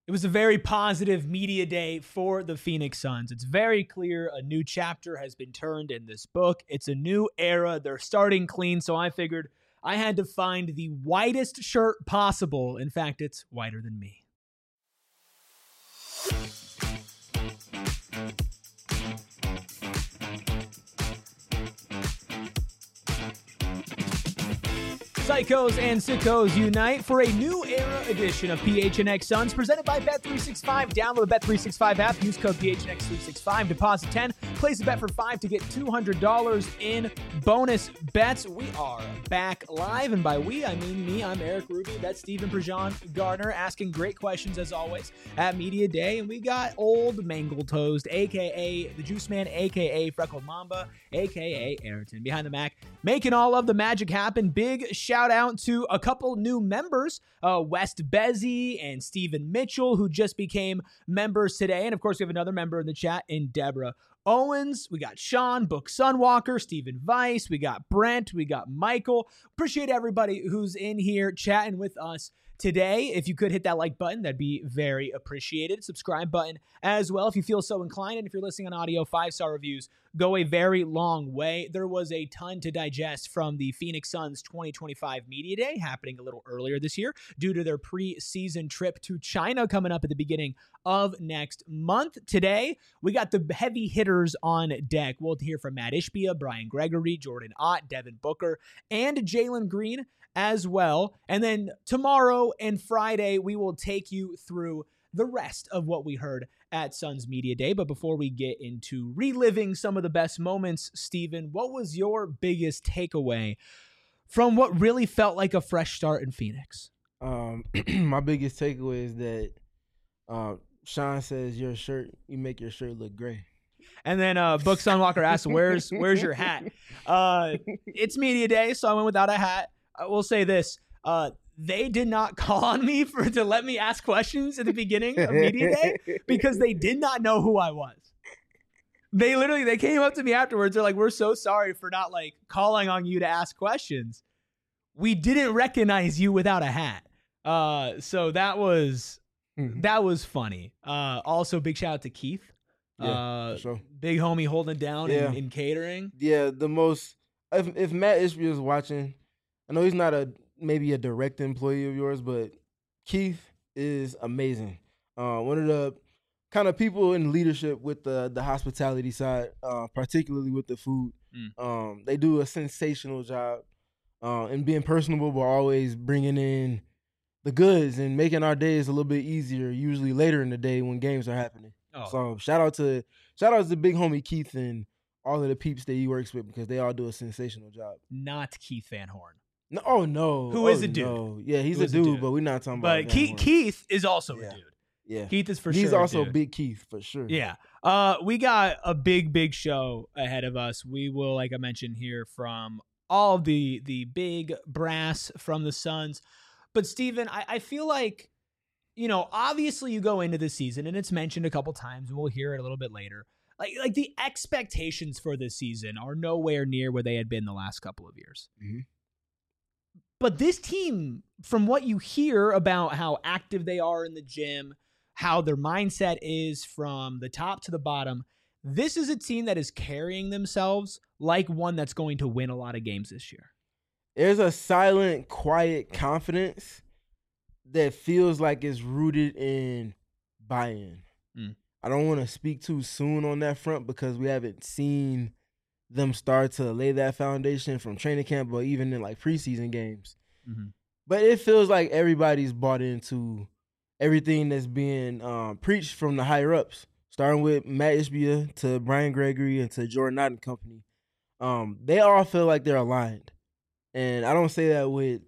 It was a very positive media day for the Phoenix Suns. It's very clear a new chapter has been turned in this book. It's a new era. They're starting clean, so I figured I had to find the whitest shirt possible. In fact, it's whiter than me. Psychos and sickos unite for a new era edition of PHNX Suns presented by Bet365. Download the Bet365 app. Use code PHNX365. Deposit 10. Place a bet for 5 to get $200 in bonus bets. We are back live, and by we, I mean me. I'm Eric Ruby. That's Stephen Prejean Gardner asking great questions as always at Media Day. And we got old Mangle Toast, a.k.a. the Juice Man, a.k.a. Freckled Mamba, a.k.a. Ayrton behind the Mac, making all of the magic happen. Big shout out to a couple new members, West Bezzy and Stephen Mitchell, who just became members today. And of course, we have another member in the chat in Deborah Owens. We got Sean, Book Sunwalker, Stephen Weiss. We got Brent. We got Michael. Appreciate everybody who's in here chatting with us today. If you could hit that like button, that'd be very appreciated. Subscribe button as well if you feel so inclined. And if you're listening on audio, 5-star reviews go a very long way. There was a ton to digest from the Phoenix Suns 2025 Media Day happening a little earlier this year due to their preseason trip to China coming up at the beginning of next month. Today, we got the heavy hitters on deck. We'll hear from Matt Ishbia, Brian Gregory, Jordan Ott, Devin Booker, and Jalen Green as well. And then tomorrow and Friday, we will take you through the rest of what we heard at Suns Media Day. But before we get into reliving some of the best moments, Steven, what was your biggest takeaway from what really felt like a fresh start in Phoenix? My biggest takeaway is that Sean says you make your shirt look gray. And then Book Sunwalker asks, where's your hat? It's Media Day, so I went without a hat. I will say this. They did not call on me to let me ask questions at the beginning of Media Day because they did not know who I was. They came up to me afterwards. They're like, we're so sorry for not like calling on you to ask questions. We didn't recognize you without a hat. So that was funny. Also, big shout out to Keith. Yeah, sure. Big homie holding it down in catering. Yeah, if Matt Ishbia is watching, I know he's not maybe a direct employee of yours, but Keith is amazing. One of the kind of people in leadership with the hospitality side, particularly with the food. They do a sensational job in being personable, but always bringing in the goods and making our days a little bit easier, usually later in the day when games are happening. Oh. So shout out to big homie Keith and all of the peeps that he works with because they all do a sensational job. Not Keith Van Horn. No, oh no. Who is a dude? No. Yeah, he's a dude, but we're not talking about. But Keith is also a dude. Yeah, Keith is for sure. He's also dude. Big Keith for sure. Yeah. We got a big show ahead of us. We will, like I mentioned, hear from all of the big brass from the Suns. But Steven, I feel like, obviously you go into the season and it's mentioned a couple times and we'll hear it a little bit later. Like the expectations for this season are nowhere near where they had been the last couple of years. Mm-hmm. But this team, from what you hear about how active they are in the gym, how their mindset is from the top to the bottom, this is a team that is carrying themselves like one that's going to win a lot of games this year. There's a silent, quiet confidence that feels like it's rooted in buy-in. I don't want to speak too soon on that front because we haven't seen them start to lay that foundation from training camp or even in like preseason games. Mm-hmm. But it feels like everybody's bought into everything that's being preached from the higher ups, starting with Matt Ishbia to Brian Gregory and to Jordan Ott and company. They all feel like they're aligned. And I don't say that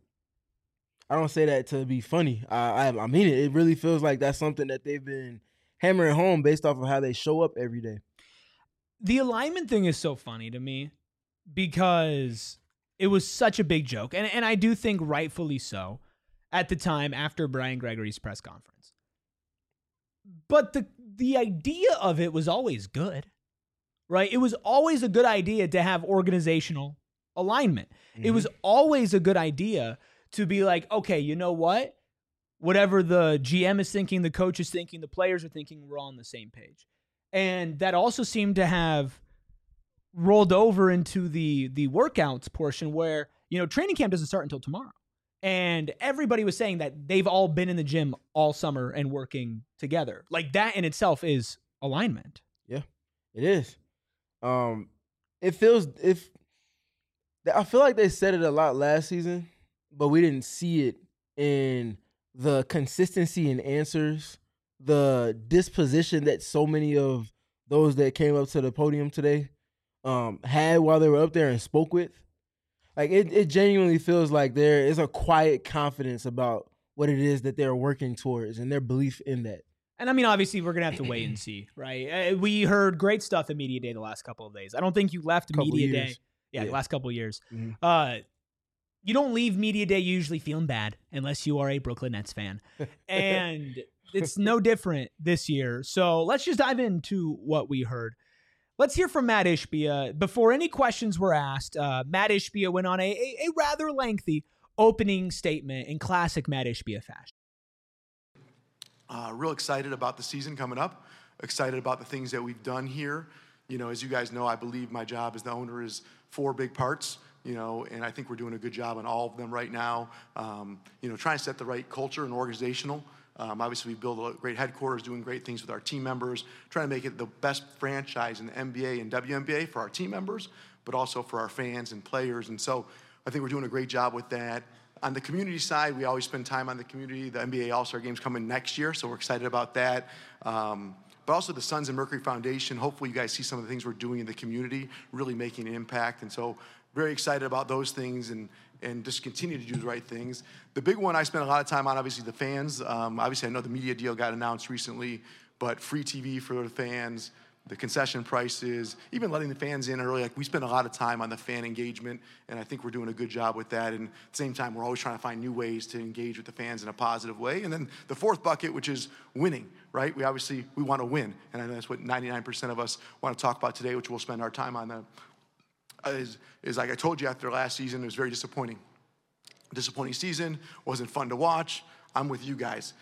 to be funny. I mean it. It really feels like that's something that they've been hammering home based off of how they show up every day. The alignment thing is so funny to me because it was such a big joke. And I do think rightfully so at the time after Brian Gregory's press conference. But the idea of it was always good, right? It was always a good idea to have organizational alignment. Mm-hmm. It was always a good idea to be like, okay, you know what? whatever the GM is thinking, the coach is thinking, the players are thinking, we're all on the same page. And that also seemed to have rolled over into the workouts portion where, training camp doesn't start until tomorrow. And everybody was saying that they've all been in the gym all summer and working together. Like, that in itself is alignment. Yeah, it is. I feel like they said it a lot last season, but we didn't see it in the consistency in answers, the disposition that so many of those that came up to the podium today had while they were up there and spoke with. Like, it genuinely feels like there is a quiet confidence about what it is that they're working towards and their belief in that. And I mean, obviously, we're going to have to wait and see, right? We heard great stuff at Media Day the last couple of days. I don't think you left Media Day. Yeah, the last couple of years. Mm-hmm. You don't leave Media Day usually feeling bad unless you are a Brooklyn Nets fan. And it's no different this year. So let's just dive into what we heard. Let's hear from Mat Ishbia. Before any questions were asked, Mat Ishbia went on a rather lengthy opening statement in classic Mat Ishbia fashion. Real excited about the season coming up. Excited about the things that we've done here. As you guys know, I believe my job as the owner is 4 big parts, and I think we're doing a good job on all of them right now. Trying to set the right culture and organizational. Obviously, we build a great headquarters, doing great things with our team members, trying to make it the best franchise in the NBA and WNBA for our team members, but also for our fans and players. And so I think we're doing a great job with that. On the community side, we always spend time on the community. The NBA All-Star Game's coming next year, so we're excited about that. But also the Sons and Mercury Foundation. Hopefully you guys see some of the things we're doing in the community, really making an impact. And so very excited about those things and just continue to do the right things. The big one I spent a lot of time on, obviously, the fans. Obviously, I know the media deal got announced recently, but free TV for the fans, the concession prices, even letting the fans in early. Like, we spend a lot of time on the fan engagement, and I think we're doing a good job with that. And at the same time, we're always trying to find new ways to engage with the fans in a positive way. And then the fourth bucket, which is winning, right? We want to win, and I know that's what 99% of us want to talk about today, which we'll spend our time on. Is like I told you after last season, it was very disappointing. Disappointing season, wasn't fun to watch. I'm with you guys.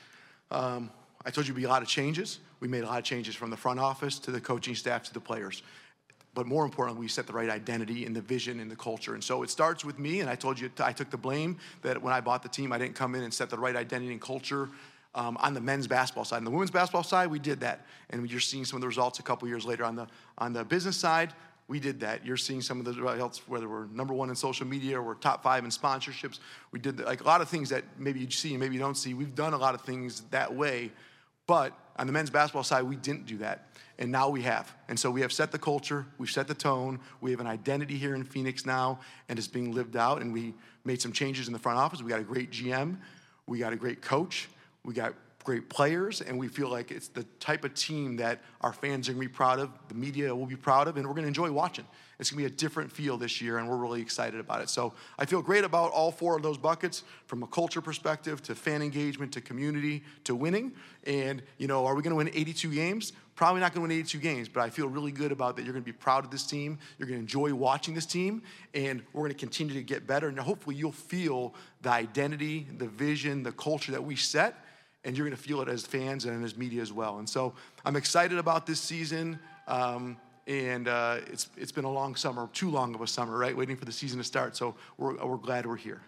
I told you it'd be a lot of changes. We made a lot of changes from the front office to the coaching staff to the players. But more importantly, we set the right identity and the vision and the culture. And so it starts with me, and I told you I took the blame that when I bought the team, I didn't come in and set the right identity and culture on the men's basketball side. On the women's basketball side, we did that. And you're seeing some of the results a couple years later. On the business side, we did that. You're seeing some of the results, whether we're number 1 in social media or we're top 5 in sponsorships. We did like a lot of things that maybe you see and maybe you don't see. We've done a lot of things that way, but on the men's basketball side, we didn't do that. And now we have. And so we have set the culture, we've set the tone, we have an identity here in Phoenix now, and it's being lived out. And we made some changes in the front office. We got a great GM, we got a great coach, we got great players, and we feel like it's the type of team that our fans are going to be proud of, the media will be proud of, and we're going to enjoy watching. It's going to be a different feel this year, and we're really excited about it. So I feel great about all 4 of those buckets, from a culture perspective to fan engagement to community to winning. And, are we going to win 82 games? Probably not going to win 82 games, but I feel really good about that. You're going to be proud of this team. You're going to enjoy watching this team, and we're going to continue to get better. And hopefully you'll feel the identity, the vision, the culture that we set, and you're going to feel it as fans and as media as well. And so I'm excited about this season, and it's been a long summer, too long of a summer, right, waiting for the season to start. So we're glad we're here.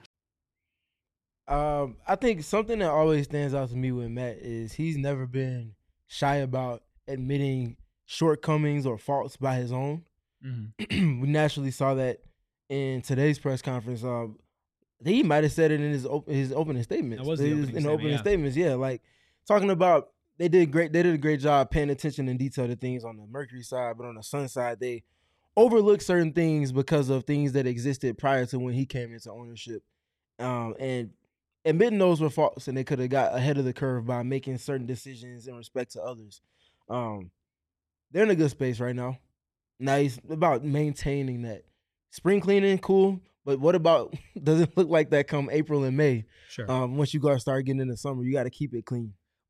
I think something that always stands out to me with Matt is he's never been shy about admitting shortcomings or faults by his own. Mm-hmm. We naturally saw that in today's press conference. He might have said it in his opening statements. That was the opening statements, yeah. Like, talking about they did a great job paying attention in detail to things on the Mercury side, but on the Sun side, they overlooked certain things because of things that existed prior to when he came into ownership. And admitting those were faults, and they could have got ahead of the curve by making certain decisions in respect to others. They're in a good space right now. Now it's about maintaining that. Spring cleaning, cool. But what about, does it look like that come April and May? Sure. Once you start getting into summer, you got to keep it clean.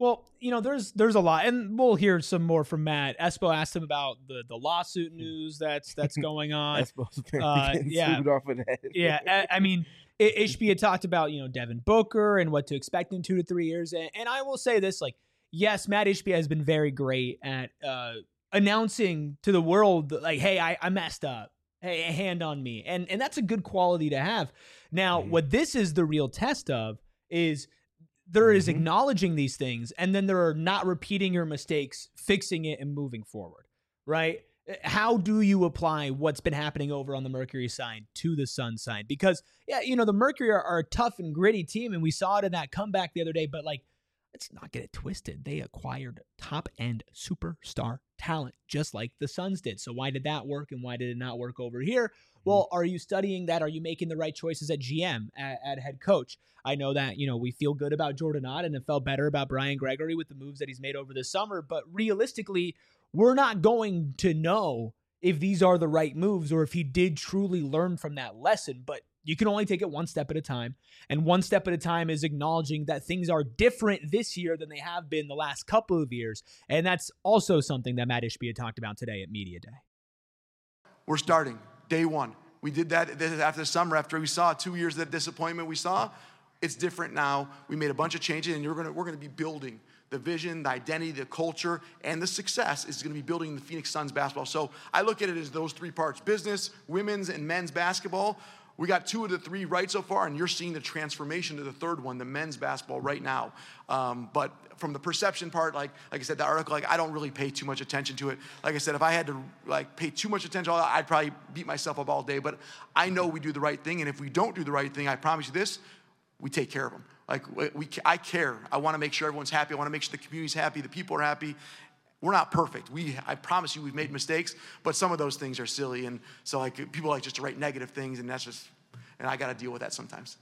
Well, there's a lot, and we'll hear some more from Matt. Espo asked him about the lawsuit news that's going on. Espo's apparently getting sued off of that. Yeah, I mean, Ishbia had talked about Devin Booker and what to expect in 2 to 3 years, and I will say this: like, yes, Matt Ishbia has been very great at announcing to the world, like, hey, I messed up. Hey, a hand on me, and that's a good quality to have. Now, what this is the real test of is. There is acknowledging these things, and then there are not repeating your mistakes, fixing it, and moving forward, right? How do you apply what's been happening over on the Mercury side to the Sun side? Because, the Mercury are a tough and gritty team, and we saw it in that comeback the other day, but, like, let's not get it twisted. They acquired top-end superstar talent, just like the Suns did. So why did that work, and why did it not work over here? Well, are you studying that? Are you making the right choices at GM, at head coach? I know that, we feel good about Jordan Ott and it felt better about Brian Gregory with the moves that he's made over the summer. But realistically, we're not going to know if these are the right moves or if he did truly learn from that lesson. But you can only take it one step at a time. And one step at a time is acknowledging that things are different this year than they have been the last couple of years. And that's also something that Matt Ishbia talked about today at Media Day. We're starting day one. We did that after the summer, after we saw 2 years of that disappointment we saw. It's different now. We made a bunch of changes, and we're going to be building the vision, the identity, the culture, and the success is going to be building the Phoenix Suns basketball. So I look at it as those 3 parts: business, women's, and men's basketball. We got 2 of the 3 right so far, and you're seeing the transformation to the third one, the men's basketball, right now. But from the perception part, like I said, the article, I don't really pay too much attention to it. Like I said, if I had to pay too much attention, I'd probably beat myself up all day. But I know we do the right thing, and if we don't do the right thing, I promise you this: we take care of them. I care. I want to make sure everyone's happy. I want to make sure the community's happy, the people are happy. We're not perfect. I promise you, we've made mistakes, but some of those things are silly, and so people like just to write negative things, and and I got to deal with that sometimes.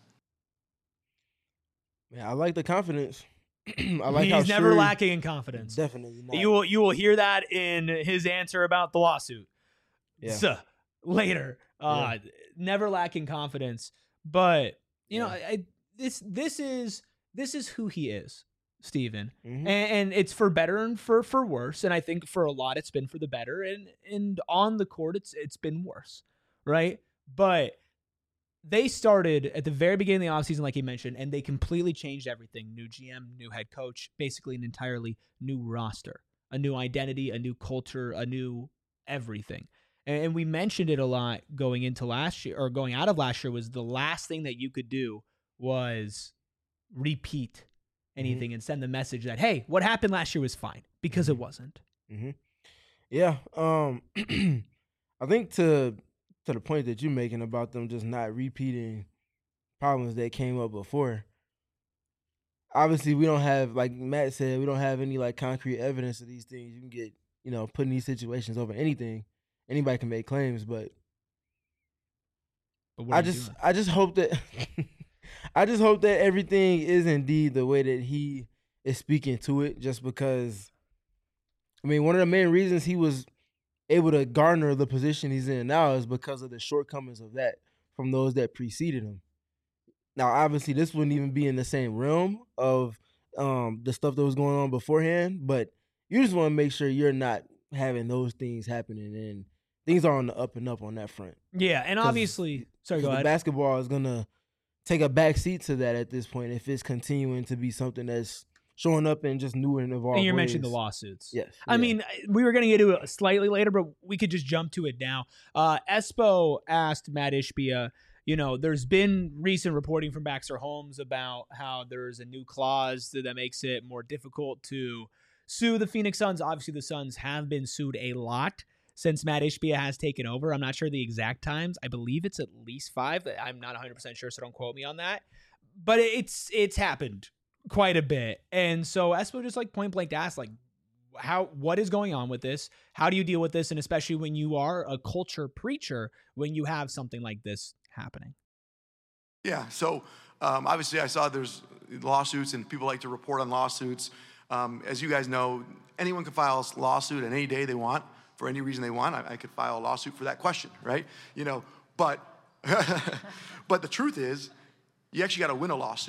Man, I like the confidence. He's never lacking in confidence. Definitely not. You will hear that in his answer about the lawsuit. Yeah. So, later. Never lacking confidence, but this is who he is, Steven. And it's for better and for worse. And I think for a lot it's been for the better, and on the court it's been worse, right? But they started at the very beginning of the offseason, like he mentioned, and they completely changed everything. New GM, new head coach, basically an entirely new roster, a new identity, a new culture, a new everything. And we mentioned it a lot going into last year, or going out of last year, was the last thing that you could do was repeat anything and send the message that, hey, what happened last year was fine, because it wasn't. Yeah. I think to the point that you're making about them just not repeating problems that came up before, obviously we don't have, like Matt said, we don't have any concrete evidence of these things. You can get, put in these situations over anything. Anybody can make claims, but I just hope that I just hope that everything is indeed the way that he is speaking to it, just because, one of the main reasons he was able to garner the position he's in now is because of the shortcomings of that from those that preceded him. Now, obviously, this wouldn't even be in the same realm of the stuff that was going on beforehand, but you just want to make sure you're not having those things happening, and things are on the up and up on that front. Yeah, and obviously, sorry, go ahead. Basketball is going to take a back seat to that at this point if it's continuing to be something that's showing up in just new and evolved And you ways. mentioned the lawsuits. Yes. I mean, we were going to get to it slightly later, but we could just jump to it now. Espo asked Matt Ishbia, there's been recent reporting from Baxter Holmes about how there's a new clause that makes it more difficult to sue the Phoenix Suns. Obviously, the Suns have been sued a lot since Matt Ishbia has taken over. I'm not sure the exact times. I believe it's at least 5. I'm not 100% sure, so don't quote me on that. But it's happened quite a bit. And so Espo just point blank asked, what is going on with this? How do you deal with this? And especially when you are a culture preacher, when you have something like this happening. Yeah. So obviously I saw there's lawsuits and people like to report on lawsuits. As you guys know, anyone can file a lawsuit on any day they want for any reason they want. I could file a lawsuit for that question, right? But but the truth is, you actually got to win a lawsuit.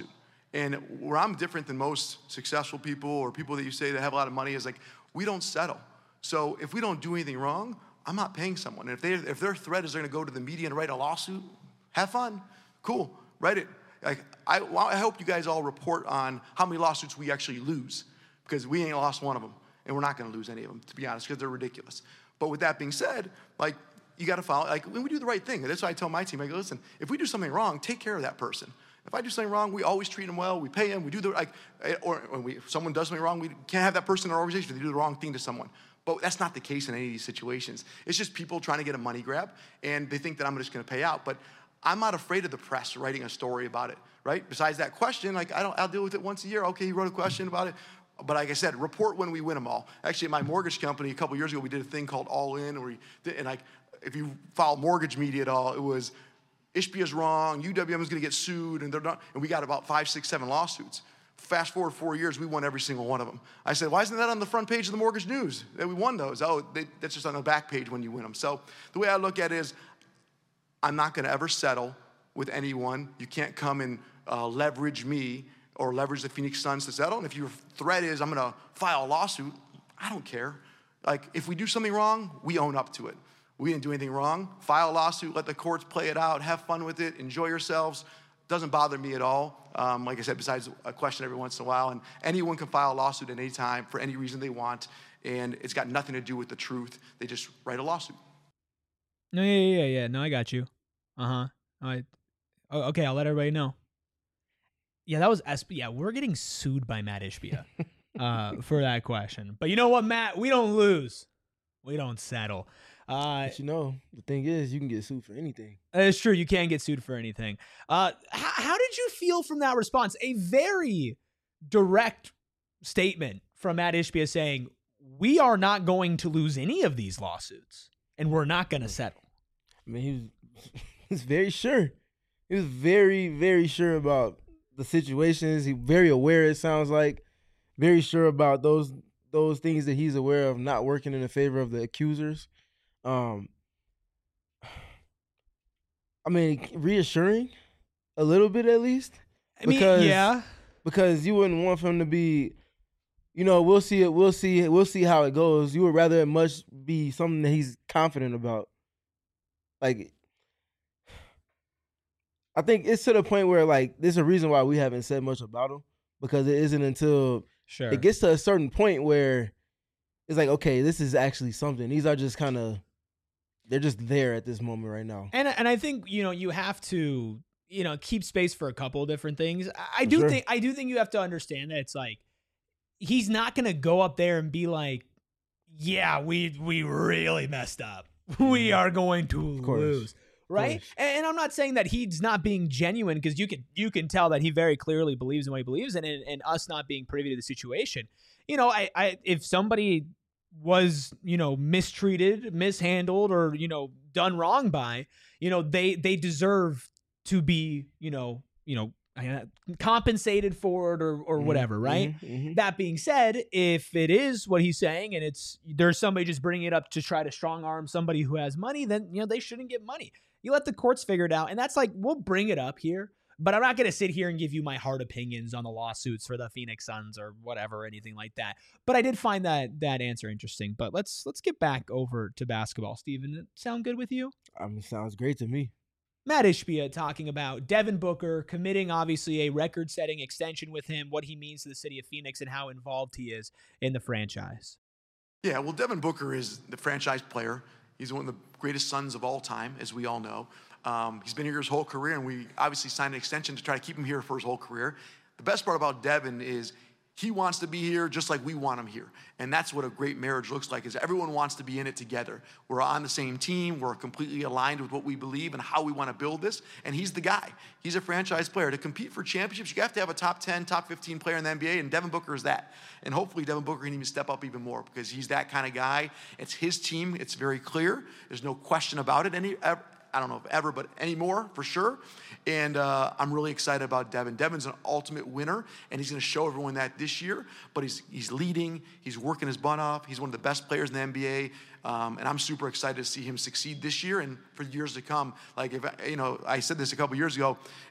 And where I'm different than most successful people or people that you say that have a lot of money is like, we don't settle. So if we don't do anything wrong, I'm not paying someone. And if their threat is they're gonna go to the media and write a lawsuit, have fun, cool, write it. Like, I hope you guys all report on how many lawsuits we actually lose, because we ain't lost one of them, and we're not gonna lose any of them, to be honest, because they're ridiculous. But with that being said, like, you gotta follow, like, when we do the right thing, that's why I tell my team, I go, listen, if we do something wrong, take care of that person. If I do something wrong, we always treat them well, we pay them, we do the, like, or when if someone does something wrong, we can't have that person in our organization if they do the wrong thing to someone. But that's not the case in any of these situations. It's just people trying to get a money grab, and they think that I'm just gonna pay out. But I'm not afraid of the press writing a story about it, right? Besides that question, like, I'll deal with it once a year. Okay, he wrote a question about it. But like I said, report when we win them all. Actually, at my mortgage company, a couple years ago, we did a thing called All In, and like, if you follow mortgage media at all, it was, Ishbia's wrong, UWM is gonna get sued, and they're not, and we got about 5, 6, 7 lawsuits. Fast forward 4 years, we won every single one of them. I said, why isn't that on the front page of the Mortgage News that we won those? Oh, that's just on the back page when you win them. So the way I look at it is, I'm not gonna ever settle with anyone. You can't come and leverage me or leverage the Phoenix Suns to settle. And if your threat is, I'm gonna file a lawsuit, I don't care. Like, if we do something wrong, we own up to it. We didn't do anything wrong. File a lawsuit, let the courts play it out, have fun with it, enjoy yourselves. Doesn't bother me at all. Like I said, besides a question every once in a while, and anyone can file a lawsuit at any time for any reason they want, and it's got nothing to do with the truth. They just write a lawsuit. No, yeah. No, I got you. Okay, I'll let everybody know. Yeah, that was SB. Yeah, we're getting sued by Matt Ishbia for that question. But you know what, Matt? We don't lose. We don't settle. But you know, the thing is, you can get sued for anything. It's true. You can get sued for anything. How did you feel from that response? A very direct statement from Matt Ishbia saying, we are not going to lose any of these lawsuits, and we're not going to settle. I mean, he was very sure. He was very, very sure about the situations. He's very aware, it sounds like. Very sure about those things that he's aware of not working in the favor of the accusers. I mean, reassuring a little bit at least. Because you wouldn't want him to be, you know, we'll see how it goes. You would rather it much be something that he's confident about. Like, I think it's to the point where, like, there's a reason why we haven't said much about him, because it isn't until it gets to a certain point where it's like, okay, this is actually something. These are just kind of, they're just there at this moment right now. And I think, you know, you have to, you know, keep space for a couple of different things. I do think you have to understand that it's like, he's not going to go up there and be like, yeah, we really messed up. We are going to lose. Right. And I'm not saying that he's not being genuine, because you can tell that he very clearly believes in what he believes in, and us not being privy to the situation. You know, I if somebody was, you know, mistreated, mishandled, or, you know, done wrong by, you know, they deserve to be, you know, compensated for it or whatever, right? Mm-hmm. That being said, if it is what he's saying and there's somebody just bringing it up to try to strong arm somebody who has money, then, you know, they shouldn't get money. You let the courts figure it out. And that's like, we'll bring it up here, but I'm not going to sit here and give you my hard opinions on the lawsuits for the Phoenix Suns or whatever, anything like that. But I did find that answer interesting. But let's get back over to basketball. Steven, does it sound good with you? I mean, sounds great to me. Matt Ishbia talking about Devin Booker committing, obviously, a record-setting extension with him, what he means to the city of Phoenix, and how involved he is in the franchise. Yeah, well, Devin Booker is the franchise player. He's one of the greatest Suns of all time, as we all know. He's been here his whole career, and we obviously signed an extension to try to keep him here for his whole career. The best part about Devin is he wants to be here just like we want him here. And that's what a great marriage looks like, is everyone wants to be in it together. We're on the same team. We're completely aligned with what we believe and how we want to build this. And he's the guy. He's a franchise player. To compete for championships, you have to have a top 10, top 15 player in the NBA, and Devin Booker is that. And hopefully Devin Booker can even step up even more, because he's that kind of guy. It's his team. It's very clear. There's no question about it. I don't know if ever, but anymore, for sure. And I'm really excited about Devin. Devin's an ultimate winner, and he's going to show everyone that this year. But he's leading. He's working his butt off. He's one of the best players in the NBA. And I'm super excited to see him succeed this year and for years to come. Like, if I said this a couple years ago,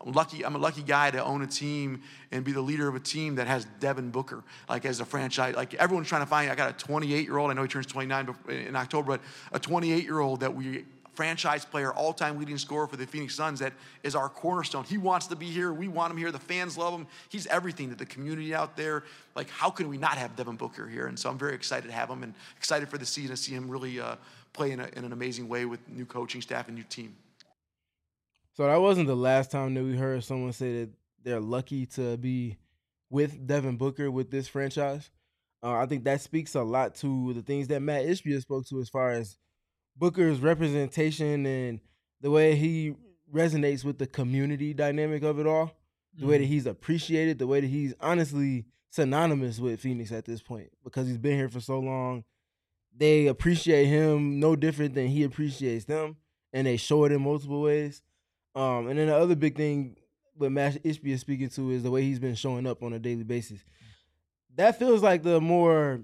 I'm a lucky guy to own a team and be the leader of a team that has Devin Booker, like as a franchise. Like everyone's trying to find, I got a 28-year-old, I know he turns 29 in October, but a 28-year-old that we franchise player, all-time leading scorer for the Phoenix Suns that is our cornerstone. He wants to be here. We want him here. The fans love him. He's everything to the community out there. Like, how can we not have Devin Booker here? And so I'm very excited to have him and excited for the season to see him really play in an amazing way with new coaching staff and new team. So that wasn't the last time that we heard someone say that they're lucky to be with Devin Booker with this franchise. I think that speaks a lot to the things that Matt Ishbia spoke to as far as Booker's representation and the way he resonates with the community dynamic of it all, the way that he's appreciated, the way that he's honestly synonymous with Phoenix at this point because he's been here for so long. They appreciate him no different than he appreciates them, and they show it in multiple ways. And then the other big thing what Matt Ishbia is speaking to is the way he's been showing up on a daily basis. That feels like the more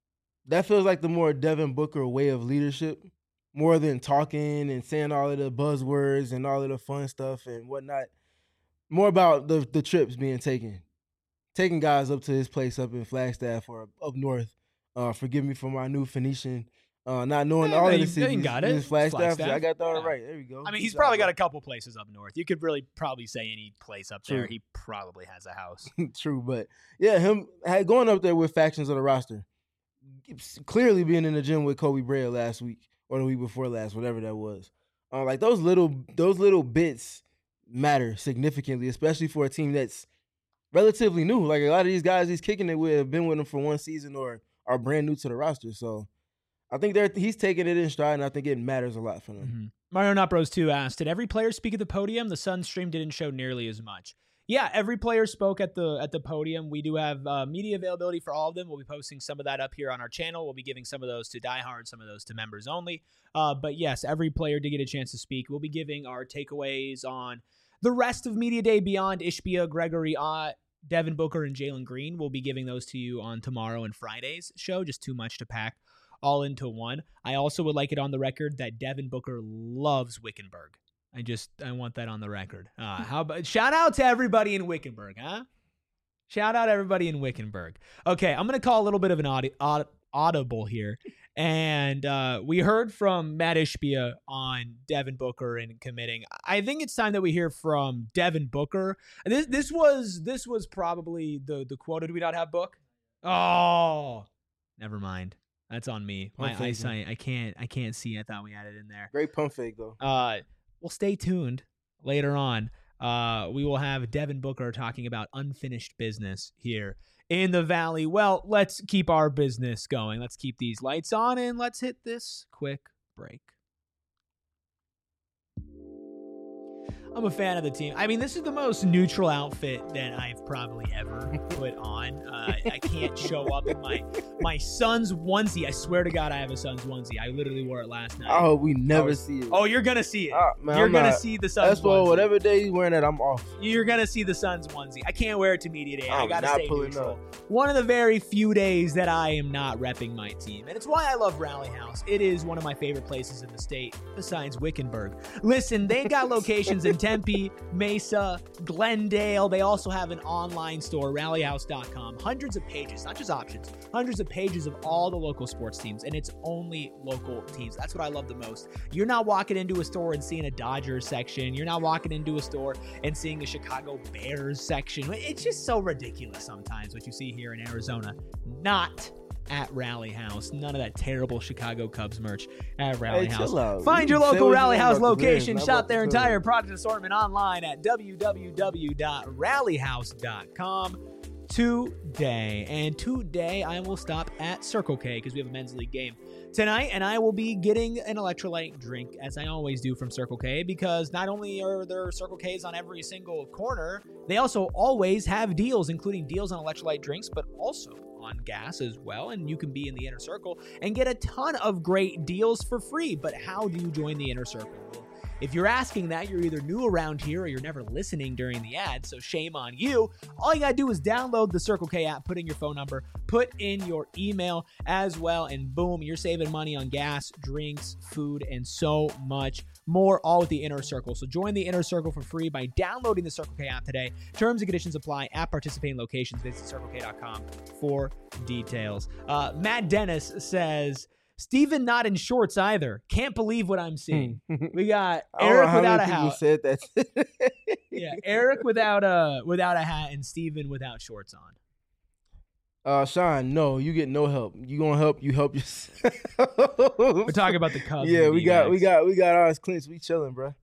Devin Booker way of leadership. More than talking and saying all of the buzzwords and all of the fun stuff and whatnot. More about the trips being taking guys up to his place up in Flagstaff or up north. Forgive me for my new Phoenician, not knowing all of the cities. Got it. Flagstaff. I got that right. There we go. I mean, he's probably got a couple places up north. You could really probably say any place up there. He probably has a house. True, but yeah, him going up there with factions of the roster. Clearly being in the gym with Kobe Bryant last week. Or the week before last, whatever that was. Like those little bits matter significantly, especially for a team that's relatively new. Like a lot of these guys he's kicking it with have been with him for one season or are brand new to the roster. So I think he's taking it in stride, and I think it matters a lot for them. Mm-hmm. Mario Napros 2 asked, did every player speak at the podium? The Suns stream didn't show nearly as much. Yeah, every player spoke at the podium. We do have media availability for all of them. We'll be posting some of that up here on our channel. We'll be giving some of those to diehards, some of those to members only. But yes, every player did get a chance to speak. We'll be giving our takeaways on the rest of Media Day beyond Ishbia, Gregory Ott, Devin Booker, and Jalen Green. We'll be giving those to you on tomorrow and Friday's show. Just too much to pack all into one. I also would like it on the record that Devin Booker loves Wickenburg. I want that on the record. How about shout out to everybody in Wickenburg, huh? Shout out everybody in Wickenburg. Okay, I'm going to call a little bit of an audible here. And we heard from Matt Ishbia on Devin Booker and committing. I think it's time that we hear from Devin Booker. This was probably the quote. Did we not have Book? Oh, never mind. That's on me. My eyesight. I can't see. I thought we had it in there. Great pump fake though. Well, stay tuned. Later on, we will have Devin Booker talking about unfinished business here in the Valley. Well, let's keep our business going. Let's keep these lights on, and let's hit this quick break. I'm a fan of the team. I mean, this is the most neutral outfit that I've probably ever put on. I can't show up in my Suns onesie. I swear to God, I have a Suns onesie. I literally wore it last night. I hope we never see it. Oh, you're going to see it. Man, you're going to see the Suns onesie. Whatever day he's wearing that, I'm off. You're going to see the Suns onesie. I can't wear it to Media Day. I got to stay neutral. Up. One of the very few days that I am not repping my team. And it's why I love Rally House. It is one of my favorite places in the state, besides Wickenburg. Listen, they got locations in Tempe, Mesa, Glendale. They also have an online store, rallyhouse.com. Hundreds of pages, not just options, hundreds of pages of all the local sports teams, and it's only local teams. That's what I love the most. You're not walking into a store and seeing a Dodgers section. You're not walking into a store and seeing a Chicago Bears section. It's just so ridiculous sometimes what you see here in Arizona. Not at Rally House. None of that terrible Chicago Cubs merch at Rally House. Find your local Rally House location. Shop their entire product assortment online at www.rallyhouse.com today. And today I will stop at Circle K because we have a men's league game tonight, and I will be getting an electrolyte drink as I always do from Circle K, because not only are there Circle Ks on every single corner, they also always have deals, including deals on electrolyte drinks, but also on gas as well. And you can be in the inner circle and get a ton of great deals for free. But how do you join the inner circle? Well, If you're asking that, you're either new around here or you're never listening during the ad, so shame on you. All you gotta do is download the Circle K app, put in your phone number, put in your email as well, and boom, you're saving money on gas, drinks, food, and so much more, all with the Inner Circle. So join the Inner Circle for free by downloading the Circle K app today. Terms and conditions apply at participating locations. Visit CircleK.com for details. Matt Dennis says, Steven not in shorts either. Can't believe what I'm seeing. We got Eric without a hat. Said that. Yeah, Eric without a hat and Steven without shorts on. Sean, no, you get no help. You gonna help? You help yourself. We're talking about the Cubs. Yeah, we got ours clinched. We chilling, bro.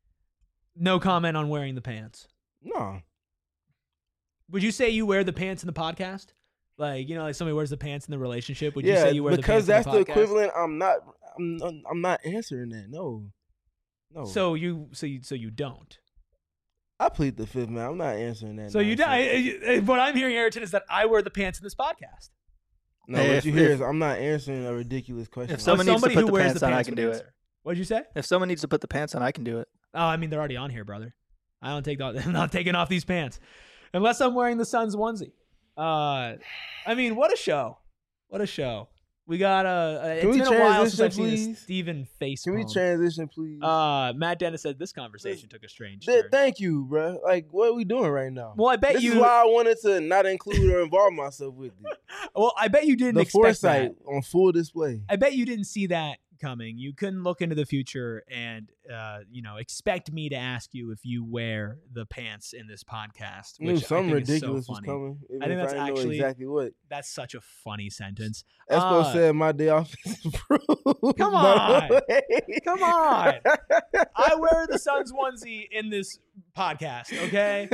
No comment on wearing the pants. No. Would you say you wear the pants in the podcast? Like, like somebody wears the pants in the relationship. Would you say you wear the pants in the podcast? Because that's the equivalent. I'm not answering that. No. So you don't. I plead the fifth, man. I'm not answering that. So what I'm hearing, Ayrton, is that I wear the pants in this podcast. No, what you hear is I'm not answering a ridiculous question. If someone needs to put the pants on, I can do it. What'd you say? If someone needs to put the pants on, I can do it. Oh, I mean, they're already on here, brother. I'm not taking off these pants unless I'm wearing the Suns onesie. I mean, what a show. What a show. We got it's been a while since I've seen a Steven face. Can we transition, please? Matt Dennis said this conversation took a strange turn. Thank you, bro. Like, what are we doing right now? Well, I bet this is why I wanted to not include or involve myself with it. Well, I bet you didn't expect foresight that. On full display. I bet you didn't see that coming. You couldn't look into the future and expect me to ask you if you wear the pants in this podcast. Which something ridiculous so was coming. I think that's actually exactly what. That's such a funny sentence. Espo said my day off is approved. Come on. Come on. I wear the Suns onesie in this podcast, okay?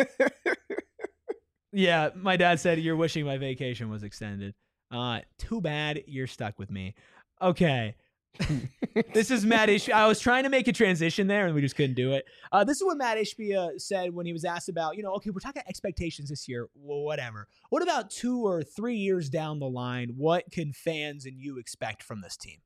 Yeah, my dad said you're wishing my vacation was extended. Too bad you're stuck with me. Okay. This is Matt Ishbia. I was trying to make a transition there and we just couldn't do it. This is what Matt Ishbia said when he was asked about, okay, we're talking expectations this year. Well, whatever. What about 2 or 3 years down the line? What can fans and you expect from this team?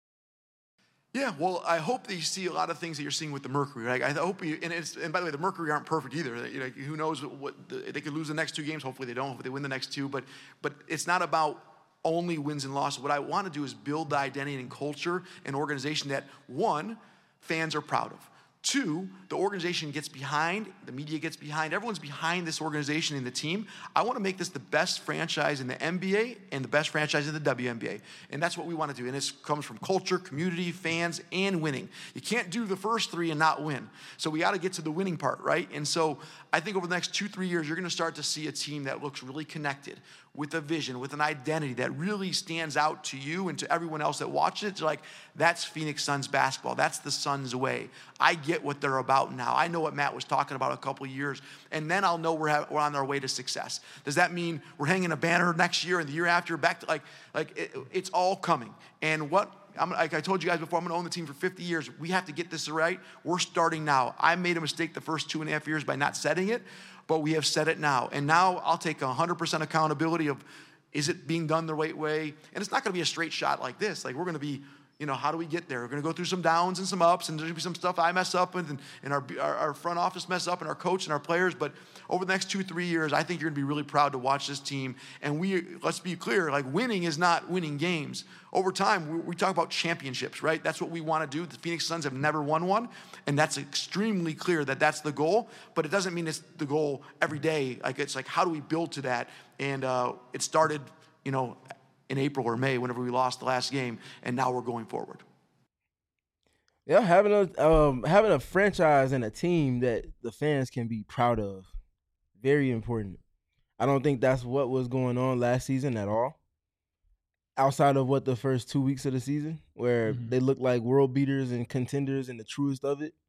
Yeah, well, I hope that you see a lot of things that you're seeing with the Mercury. Right? I hope and by the way, the Mercury aren't perfect either. Who knows they could lose the next 2 games. Hopefully they don't. Hopefully they win the next 2. But it's not about only wins and losses. What I want to do is build the identity and culture and organization that, 1, fans are proud of. 2, the organization gets behind, the media gets behind, everyone's behind this organization and the team. I want to make this the best franchise in the NBA and the best franchise in the WNBA. And that's what we want to do. And it comes from culture, community, fans, and winning. You can't do the first 3 and not win. So we got to get to the winning part, right? And so I think over the next 2-3 years, you're going to start to see a team that looks really connected, with a vision, with an identity that really stands out to you and to everyone else that watches it. It's like, that's Phoenix Suns basketball. That's the Suns way. I get what they're about now. I know what Matt was talking about a couple of years, and then I'll know we're on our way to success. Does that mean we're hanging a banner next year and the year after? Back to it's all coming. And like I told you guys before, I'm going to own the team for 50 years. We have to get this right. We're starting now. I made a mistake the first 2.5 years by not setting it, but we have set it now. And now I'll take 100% accountability of, is it being done the right way? And it's not going to be a straight shot like this. Like, we're going to be, how do we get there? We're going to go through some downs and some ups, and there's going to be some stuff I mess up with, and our front office mess up, and our coach and our players. But over the next 2-3 years, I think you're going to be really proud to watch this team. And let's be clear, like, winning is not winning games. Over time, we talk about championships, right? That's what we want to do. The Phoenix Suns have never won one, and that's extremely clear that that's the goal. But it doesn't mean it's the goal every day. It's like, how do we build to that? And it started, in April or May, whenever we lost the last game, and now we're going forward. Yeah, having a franchise and a team that the fans can be proud of, very important. I don't think that's what was going on last season at all. Outside of the first 2 weeks of the season, where they looked like world beaters and contenders in the truest of it.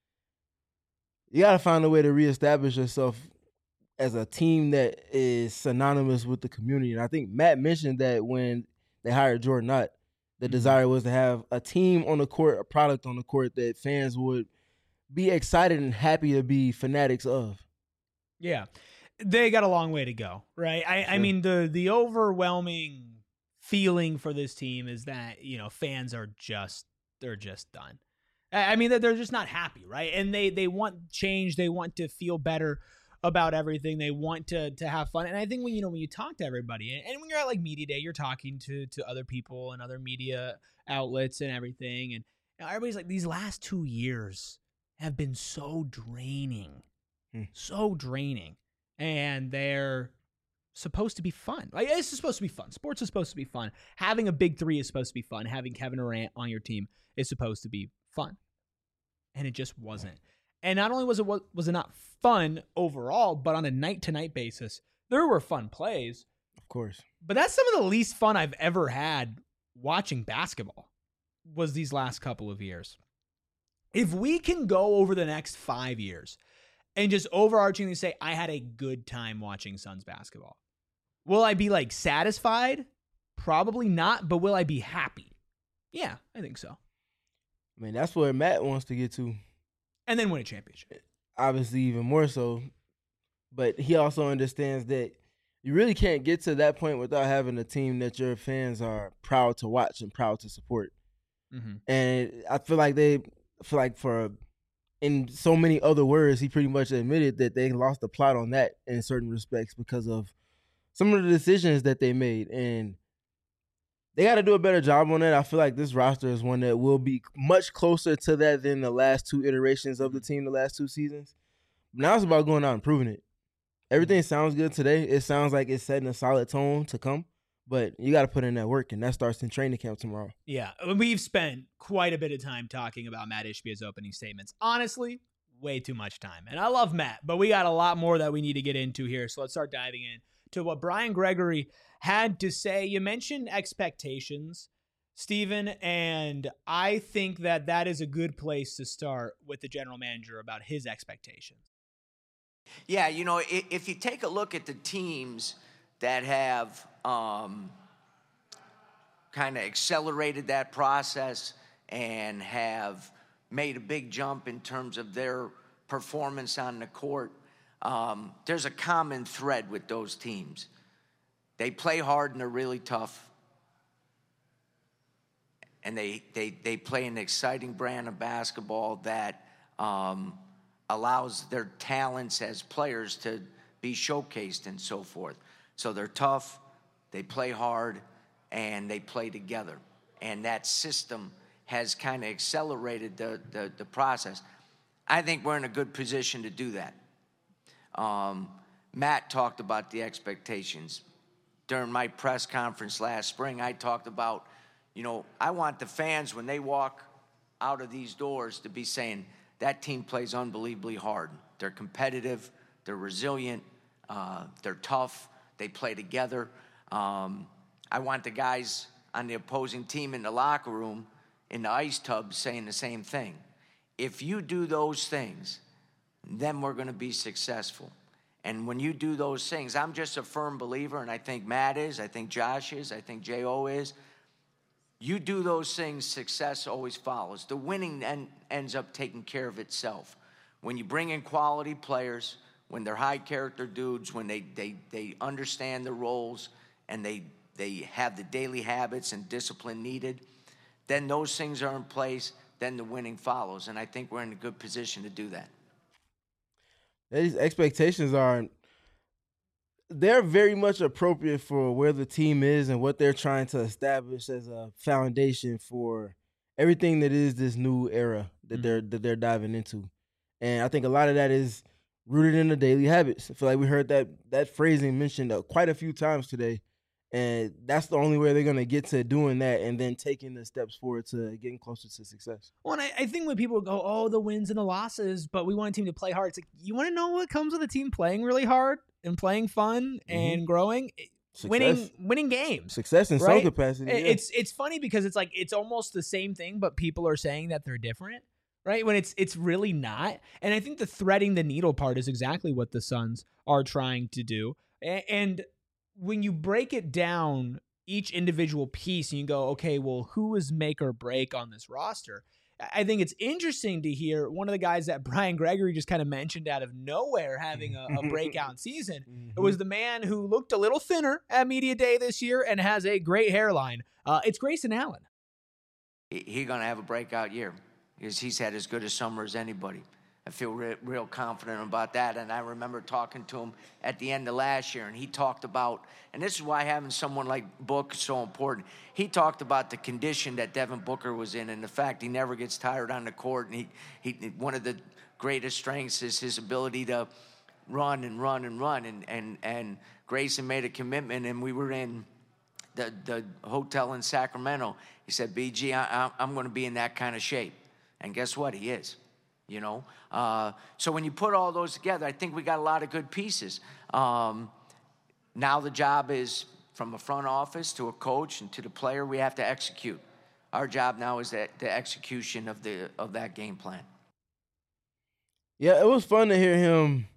You got to find a way to reestablish yourself as a team that is synonymous with the community. And I think Matt mentioned that when they hired Jordan Nutt, the desire was to have a team on the court, a product on the court that fans would be excited and happy to be fanatics of. Yeah. They got a long way to go, right? I mean, the overwhelming feeling for this team is that, fans are they're just done. I mean, they're just not happy, right? And they want change. They want to feel better about everything. They want to have fun. And I think when you talk to everybody, and when you're at like media day, you're talking to other people and other media outlets and everything. And everybody's like, these last 2 years have been so draining, so draining. And they're supposed to be fun. Like, it's supposed to be fun. Sports is supposed to be fun. Having a big three is supposed to be fun. Having Kevin Durant on your team is supposed to be fun. And it just wasn't. And not only was it not fun overall, but on a night-to-night basis, there were fun plays. Of course. But that's some of the least fun I've ever had watching basketball was these last couple of years. If we can go over the next 5 years and just overarchingly say, I had a good time watching Suns basketball, will I be like satisfied? Probably not, but will I be happy? Yeah, I think so. I mean, that's where Matt wants to get to. And then win a championship. Obviously, even more so. But he also understands that you really can't get to that point without having a team that your fans are proud to watch and proud to support. Mm-hmm. And I feel like in so many other words, he pretty much admitted that they lost the plot on that in certain respects because of some of the decisions that they made. And they got to do a better job on that. I feel like this roster is one that will be much closer to that than the last two iterations of the team the last 2 seasons. Now it's about going out and proving it. Everything sounds good today. It sounds like it's setting a solid tone to come. But you got to put in that work, and that starts in training camp tomorrow. Yeah, we've spent quite a bit of time talking about Matt Ishbia's opening statements. Honestly, way too much time. And I love Matt, but we got a lot more that we need to get into here. So let's start diving in to what Brian Gregory had to say. You mentioned expectations, Stephen, and I think that is a good place to start with the general manager about his expectations. Yeah, if you take a look at the teams that have kind of accelerated that process and have made a big jump in terms of their performance on the court, there's a common thread with those teams. They play hard and they're really tough. And they play an exciting brand of basketball that allows their talents as players to be showcased and so forth. So they're tough, they play hard, and they play together. And that system has kind of accelerated the process. I think we're in a good position to do that. Matt talked about the expectations. During my press conference last spring, I talked about, I want the fans, when they walk out of these doors, to be saying, that team plays unbelievably hard. They're competitive, they're resilient, they're tough, they play together. I want the guys on the opposing team in the locker room, in the ice tub, saying the same thing. If you do those things, then we're going to be successful. And when you do those things, I'm just a firm believer, and I think Matt is, I think Josh is, I think J.O. is. You do those things, success always follows. The winning ends up taking care of itself. When you bring in quality players, when they're high-character dudes, when they understand the roles and they have the daily habits and discipline needed, then those things are in place, then the winning follows. And I think we're in a good position to do that. These expectations they're very much appropriate for where the team is and what they're trying to establish as a foundation for everything that is this new era that they're diving into. And I think a lot of that is rooted in the daily habits. I feel like we heard that phrasing mentioned quite a few times today. And that's the only way they're going to get to doing that and then taking the steps forward to getting closer to success. Well, and I think when people go, oh, the wins and the losses, but we want a team to play hard. It's like, you want to know what comes with a team playing really hard and playing fun and growing? Success. Winning games. Success in some capacity. Yeah. It's funny because it's like it's almost the same thing, but people are saying that they're different, right? When it's really not. And I think the threading the needle part is exactly what the Suns are trying to do. And when you break it down, each individual piece, and you go, okay, well, who is make or break on this roster? I think it's interesting to hear one of the guys that Brian Gregory just kind of mentioned out of nowhere having a breakout season. It was the man who looked a little thinner at Media Day this year and has a great hairline. It's Grayson Allen. He's going to have a breakout year. because he's had as good a summer as anybody. I feel real confident about that. And I remember talking to him at the end of last year, and he talked about, and this is why having someone like Book is so important. He talked about the condition that Devin Booker was in and the fact he never gets tired on the court. And he one of the greatest strengths is his ability to run and run and run. And Grayson made a commitment, and we were in the hotel in Sacramento. He said, BG, I'm going to be in that kind of shape. And guess what? He is. You know, so when you put all those together, I think we got a lot of good pieces. Now the job is from a front office to a coach and to the player. We have to execute. Our job now is the execution of that game plan. Yeah, it was fun to hear him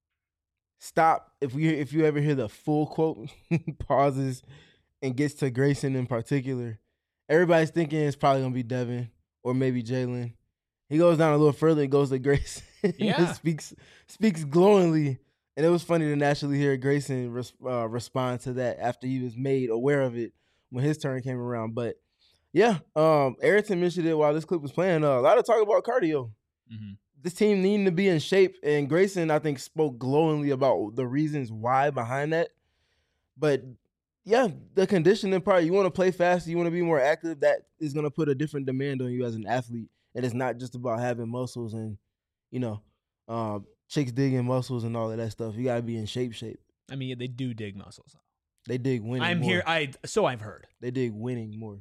stop. If you ever hear the full quote, pauses and gets to Grayson in particular, everybody's thinking it's probably gonna be Devin or maybe Jalen. He goes down a little further and goes to Grayson. Yeah. speaks glowingly. And it was funny to naturally hear Grayson respond to that after he was made aware of it when his turn came around. But, yeah, Ayrton mentioned it while this clip was playing. A lot of talk about cardio. Mm-hmm. This team needing to be in shape. And Grayson, I think, spoke glowingly about the reasons why behind that. But, yeah, the conditioning part, you want to play faster, you want to be more active, that is going to put a different demand on you as an athlete. And it's not just about having muscles and, you know, chicks digging muscles and all of that stuff. You got to be in shape. I mean, they do dig muscles. They dig winning more. So I've heard. They dig winning more.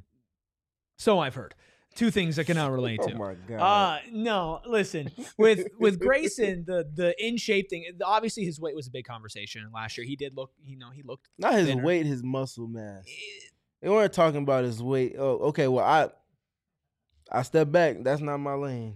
So I've heard. Two things I cannot relate to. Oh, my God. No, listen. With Grayson, the in-shape thing, obviously his weight was a big conversation. Last year he did look, he looked not his thinner. Weight, his muscle mass. They weren't talking about his weight. Oh, okay, well, I stepped back. That's not my lane.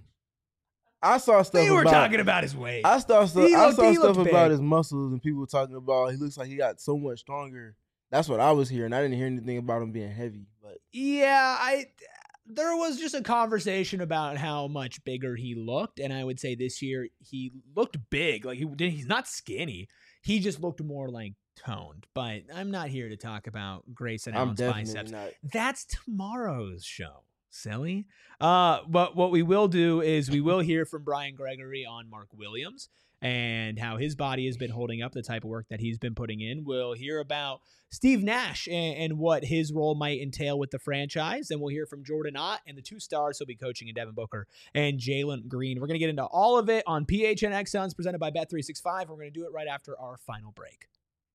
I saw stuff. We were talking about his weight. I saw stuff about his muscles, and people were talking about he looks like he got so much stronger. That's what I was hearing. I didn't hear anything about him being heavy. But yeah, there was just a conversation about how much bigger he looked, and I would say this year he looked big. Like he's not skinny. He just looked more like toned. But I'm not here to talk about Grayson Allen's biceps. Not. That's tomorrow's show. Silly. But what we will do is we will hear from Brian Gregory on Mark Williams and how his body has been holding up, the type of work that he's been putting in. We'll hear about Steve Nash and what his role might entail with the franchise. Then we'll hear from Jordan Ott and the two stars he'll be coaching in Devin Booker and Jalen Green. We're going to get into all of it on PHNX Suns presented by Bet365. We're going to do it right after our final break.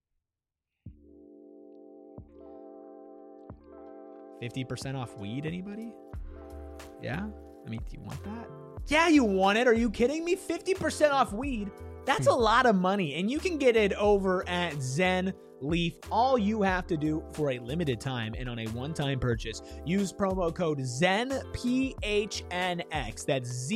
50% off weed, anybody? Yeah? I mean, do you want that? Yeah, you want it. Are you kidding me? 50% off weed. That's a lot of money. And you can get it over at Zen Leaf. All you have to do for a limited time and on a one-time purchase, use promo code ZENPHNX. That's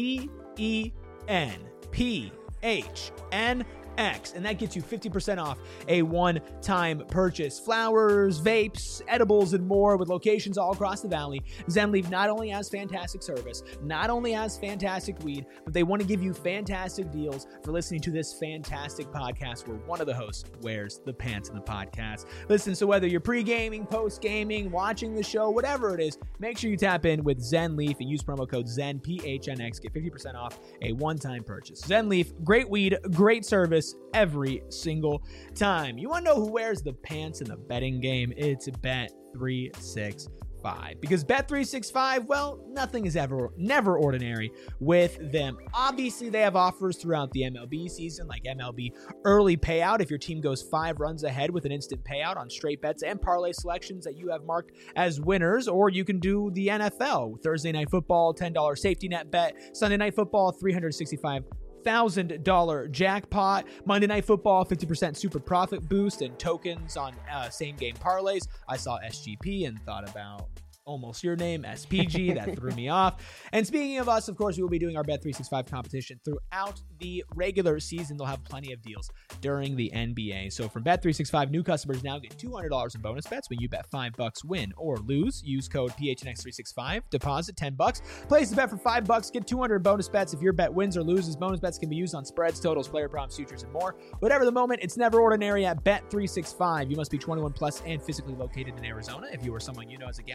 ZENPHNX. And that gets you 50% off a one-time purchase. Flowers, vapes, edibles, and more with locations all across the valley. ZenLeaf not only has fantastic service, not only has fantastic weed, but they want to give you fantastic deals for listening to this fantastic podcast where one of the hosts wears the pants in the podcast. Listen, so whether you're pre-gaming, post-gaming, watching the show, whatever it is, make sure you tap in with ZenLeaf and use promo code ZENPHNX. Get 50% off a one-time purchase. ZenLeaf, great weed, great service every single time. You want to know who wears the pants in the betting game? It's Bet365. Because Bet365, well, nothing is never ordinary with them. Obviously, they have offers throughout the MLB season, like MLB early payout. If your team goes 5 runs ahead with an instant payout on straight bets and parlay selections that you have marked as winners, or you can do the NFL. Thursday Night Football, $10 safety net bet. Sunday Night Football, $365,000 jackpot. Monday Night Football, 50% super profit boost and tokens on same game parlays. I saw SGP and thought about almost your name, SPG. That threw me off. And speaking of us, of course, we will be doing our Bet365 competition throughout the regular season. They'll have plenty of deals during the NBA. So from Bet365, new customers now get $200 in bonus bets when you bet $5, win or lose. Use code PHNX365. Deposit $10. Place the bet for $5. Get 200 bonus bets if your bet wins or loses. Bonus bets can be used on spreads, totals, player props, futures, and more. Whatever the moment, it's never ordinary at Bet365. You must be 21 plus and physically located in Arizona. If you or someone you know has a gambling problem,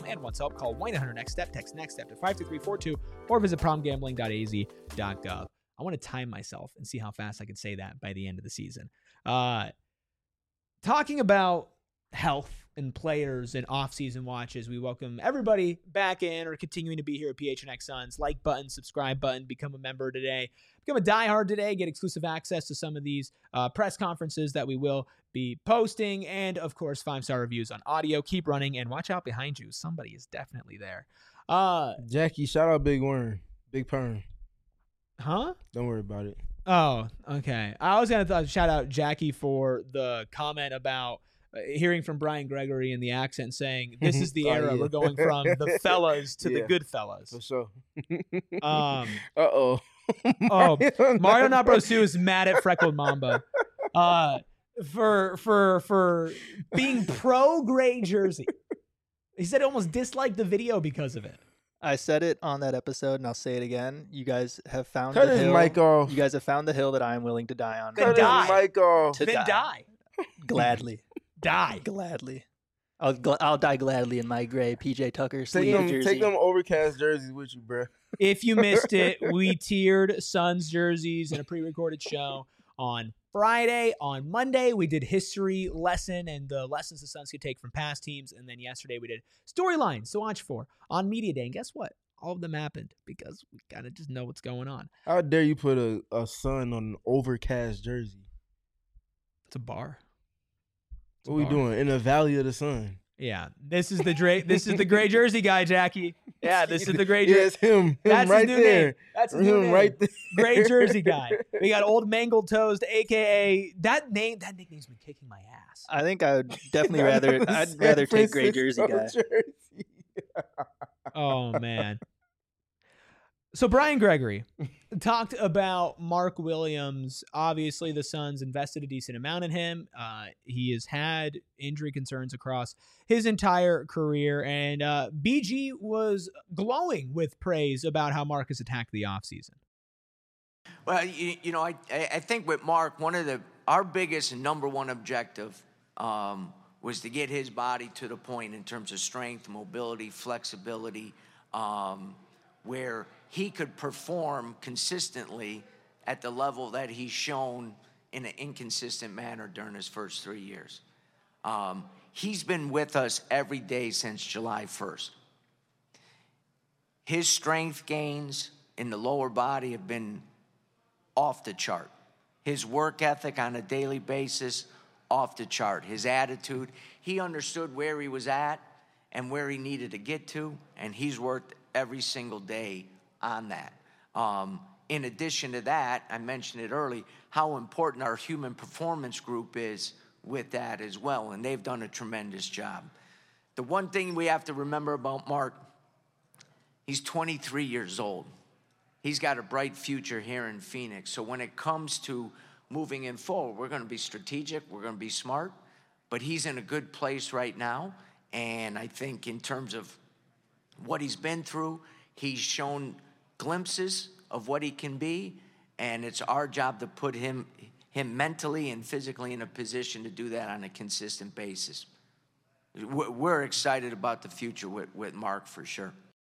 problem and wants help, call 1-800-NEXT-STEP, text NEXT-STEP to 52342, or visit problemgambling.az.gov. I want to time myself and see how fast I can say that by the end of the season. Talking about health and players and off-season watches, we welcome everybody back in or continuing to be here at PHNX Suns. Like button, subscribe button, become a member today. Become a diehard today, get exclusive access to some of these press conferences that we will be posting, and, of course, 5-star reviews on audio. Keep running, and watch out behind you. Somebody is definitely there. Jackie, shout out Big Worm. Big Perm. Huh? Don't worry about it. Oh, okay. I was going to shout out Jackie for the comment about hearing from Brian Gregory in the accent saying, this is the era. We're going from the fellas to the good fellas. For sure. Uh-oh. Mario Not Bros 2 is mad at Freckled Mamba for being pro gray jersey. He said he almost disliked the video because of it. I said it on that episode, and I'll say it again. You guys have found Cut the his hill. mic off. You guys have found the hill that I am willing to die on. Then die. His mic off. Then die. Gladly. Die. Gladly. I'll die gladly in my gray PJ Tucker sleeve jersey. Take them overcast jerseys with you, bro. If you missed it, we tiered Suns jerseys in a pre-recorded show on Friday. On Monday, we did history lesson and the lessons the Suns could take from past teams. And then yesterday, we did storylines to watch for on Media Day. And guess what? All of them happened because we kind of just know what's going on. How dare you put a sun on an overcast jersey? It's a bar. What we doing in the Valley of the Sun? Yeah, this is the gray jersey guy, Jackie. Yeah, this is the gray jersey. Yeah, it's him. That's right his new there. name. That's his new name. Right there. Gray jersey guy. We got Old Mangled Toast, AKA that name. That nickname's been kicking my ass. I think I would definitely rather take gray jersey guy. Oh man. So Brian Gregory talked about Mark Williams. Obviously, the Suns invested a decent amount in him. He has had injury concerns across his entire career, and BG was glowing with praise about how Mark has attacked the offseason. Well, I think with Mark, our biggest and number one objective was to get his body to the point in terms of strength, mobility, flexibility, where he could perform consistently at the level that he's shown in an inconsistent manner during his first 3 years. He's been with us every day since July 1st. His strength gains in the lower body have been off the chart. His work ethic on a daily basis, off the chart. His attitude, he understood where he was at and where he needed to get to, and he's worked every single day on that. In addition to that, I mentioned it early, how important our human performance group is with that as well, and they've done a tremendous job. The one thing we have to remember about Mark, he's 23 years old. He's got a bright future here in Phoenix. So when it comes to moving in forward, we're going to be strategic, we're going to be smart, but he's in a good place right now, and I think in terms of what he's been through, he's shown glimpses of what he can be, and it's our job to put him mentally and physically in a position to do that on a consistent basis. We're excited about the future with Mark for sure.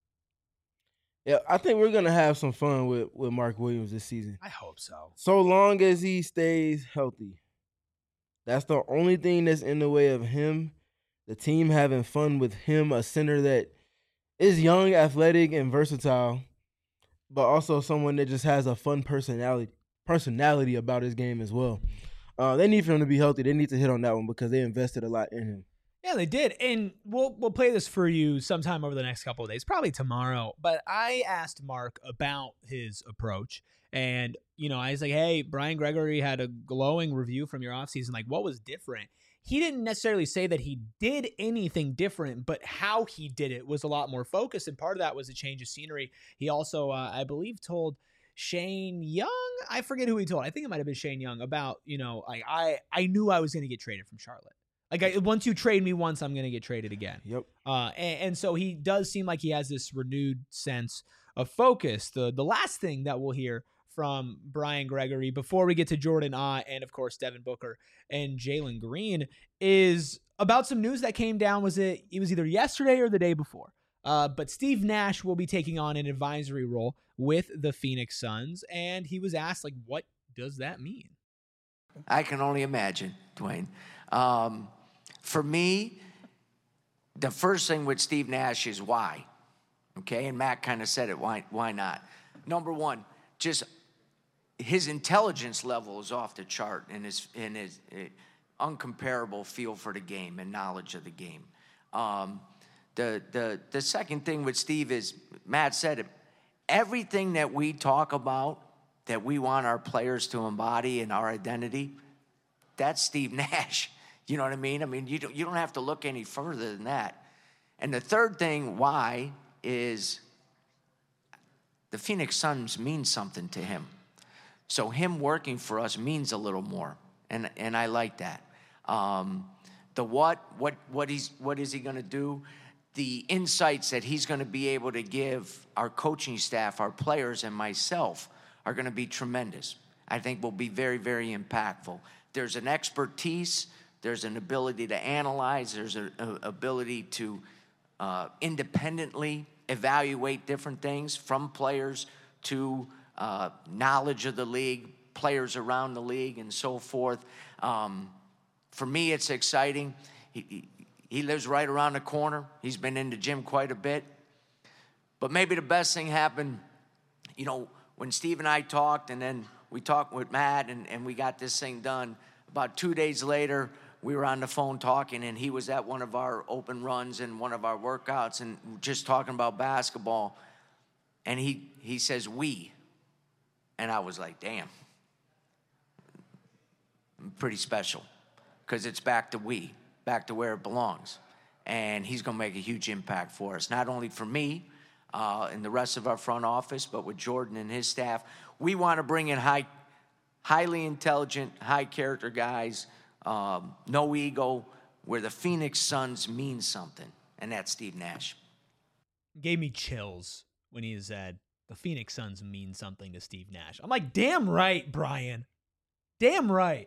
Yeah, I think we're going to have some fun with Mark Williams this season. I hope so. So long as he stays healthy. That's the only thing that's in the way of him, the team having fun with him, a center that is young, athletic, and versatile, but also someone that just has a fun personality about his game as well. They need for him to be healthy. They need to hit on that one because they invested a lot in him. Yeah, they did. And we'll play this for you sometime over the next couple of days, probably tomorrow. But I asked Mark about his approach. And, I was like, hey, Brian Gregory had a glowing review from your offseason. Like, what was different? He didn't necessarily say that he did anything different, but how he did it was a lot more focused. And part of that was a change of scenery. He also, I believe, told Shane Young, I forget who he told. I think it might have been Shane Young about, I knew I was going to get traded from Charlotte. Once you trade me once, I'm going to get traded again. Yep. And so he does seem like he has this renewed sense of focus. The last thing that we'll hear from Brian Gregory before we get to Jordan Ott and, of course, Devin Booker and Jalen Green is about some news that came down. It was either yesterday or the day before. But Steve Nash will be taking on an advisory role with the Phoenix Suns, and he was asked, like, what does that mean? I can only imagine, Dwayne. For me, the first thing with Steve Nash is why. Okay, and Matt kind of said it. Why not? Number one, just his intelligence level is off the chart, and his uncomparable feel for the game and knowledge of the game. The second thing with Steve is, Matt said it, everything that we talk about that we want our players to embody in our identity, that's Steve Nash. You know what I mean? I mean, you don't have to look any further than that. And the third thing, why, is the Phoenix Suns mean something to him. So him working for us means a little more, and I like that. The what is he going to do? The insights that he's going to be able to give our coaching staff, our players, and myself are going to be tremendous. I think will be very, very impactful. There's an expertise, there's an ability to analyze, there's an ability to independently evaluate different things, from players to knowledge of the league, players around the league, and so forth. For me, it's exciting. He lives right around the corner. He's been in the gym quite a bit. But maybe the best thing happened, you know, when Steve and I talked, and then we talked with Matt, and we got this thing done. About 2 days later, we were on the phone talking, and he was at one of our open runs and one of our workouts and just talking about basketball. And he says, we. And I was like, damn. Pretty special, because it's back to we, back to where it belongs. And he's going to make a huge impact for us, not only for me and the rest of our front office, but with Jordan and his staff. We want to bring in highly intelligent, high-character guys, no ego, where the Phoenix Suns mean something, and that's Steve Nash. Gave me chills when he said, the Phoenix Suns mean something to Steve Nash. I'm like, damn right, Brian. Damn right.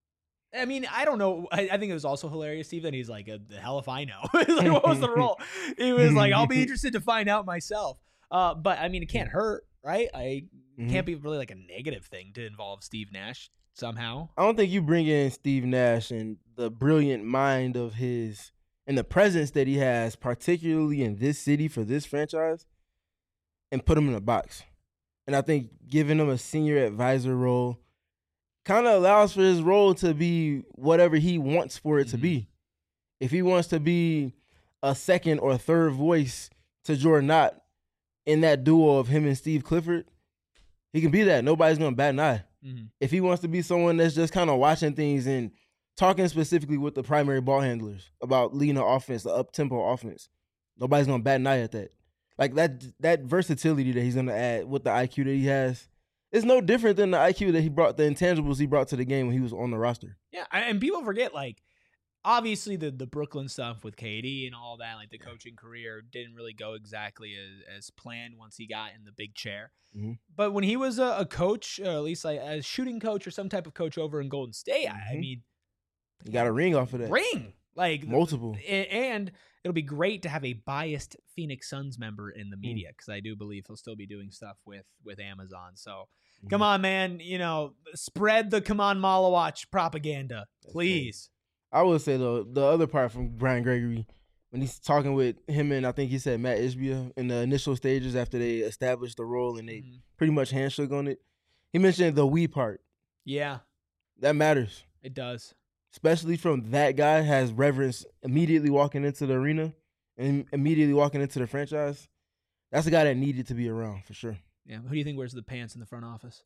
I mean, I don't know. I think it was also hilarious, Steve, that he's like, the hell if I know. Like, what was the role? He was like, I'll be interested to find out myself. But, I mean, it can't hurt, right? Can't be really like a negative thing to involve Steve Nash somehow. I don't think you bring in Steve Nash and the brilliant mind of his and the presence that he has, particularly in this city for this franchise, and put him in a box. And I think giving him a senior advisor role kind of allows for his role to be whatever he wants for it to be. If he wants to be a second or third voice to Jordan Knott in that duo of him and Steve Clifford, he can be that. Nobody's going to bat an eye. If he wants to be someone that's just kind of watching things and talking specifically with the primary ball handlers about leading the offense, the up-tempo offense, nobody's going to bat an eye at that. Like that versatility that he's going to add with the IQ that he has, it's no different than the IQ that he brought, the intangibles he brought to the game when he was on the roster. Yeah, and people forget, like, obviously the Brooklyn stuff with KD and all that, like the coaching career didn't really go exactly as planned once he got in the big chair. But when he was a coach, or at least like a shooting coach or some type of coach over in Golden State, I mean, he got a ring off of that. Like multiple. And it'll be great to have a biased Phoenix Suns member in the media, because I do believe he'll still be doing stuff with Amazon. So come on, man, you know, spread the come on Malawach propaganda, please. I would say, though, the other part from Brian Gregory, when he's talking with him and I think he said Matt Ishbia in the initial stages after they established the role and they pretty much handshook on it, he mentioned the we part. Yeah. That matters. It does. Especially from that guy, has reverence immediately walking into the arena and immediately walking into the franchise. That's a guy that needed to be around, for sure. Yeah. Who do you think wears the pants in the front office?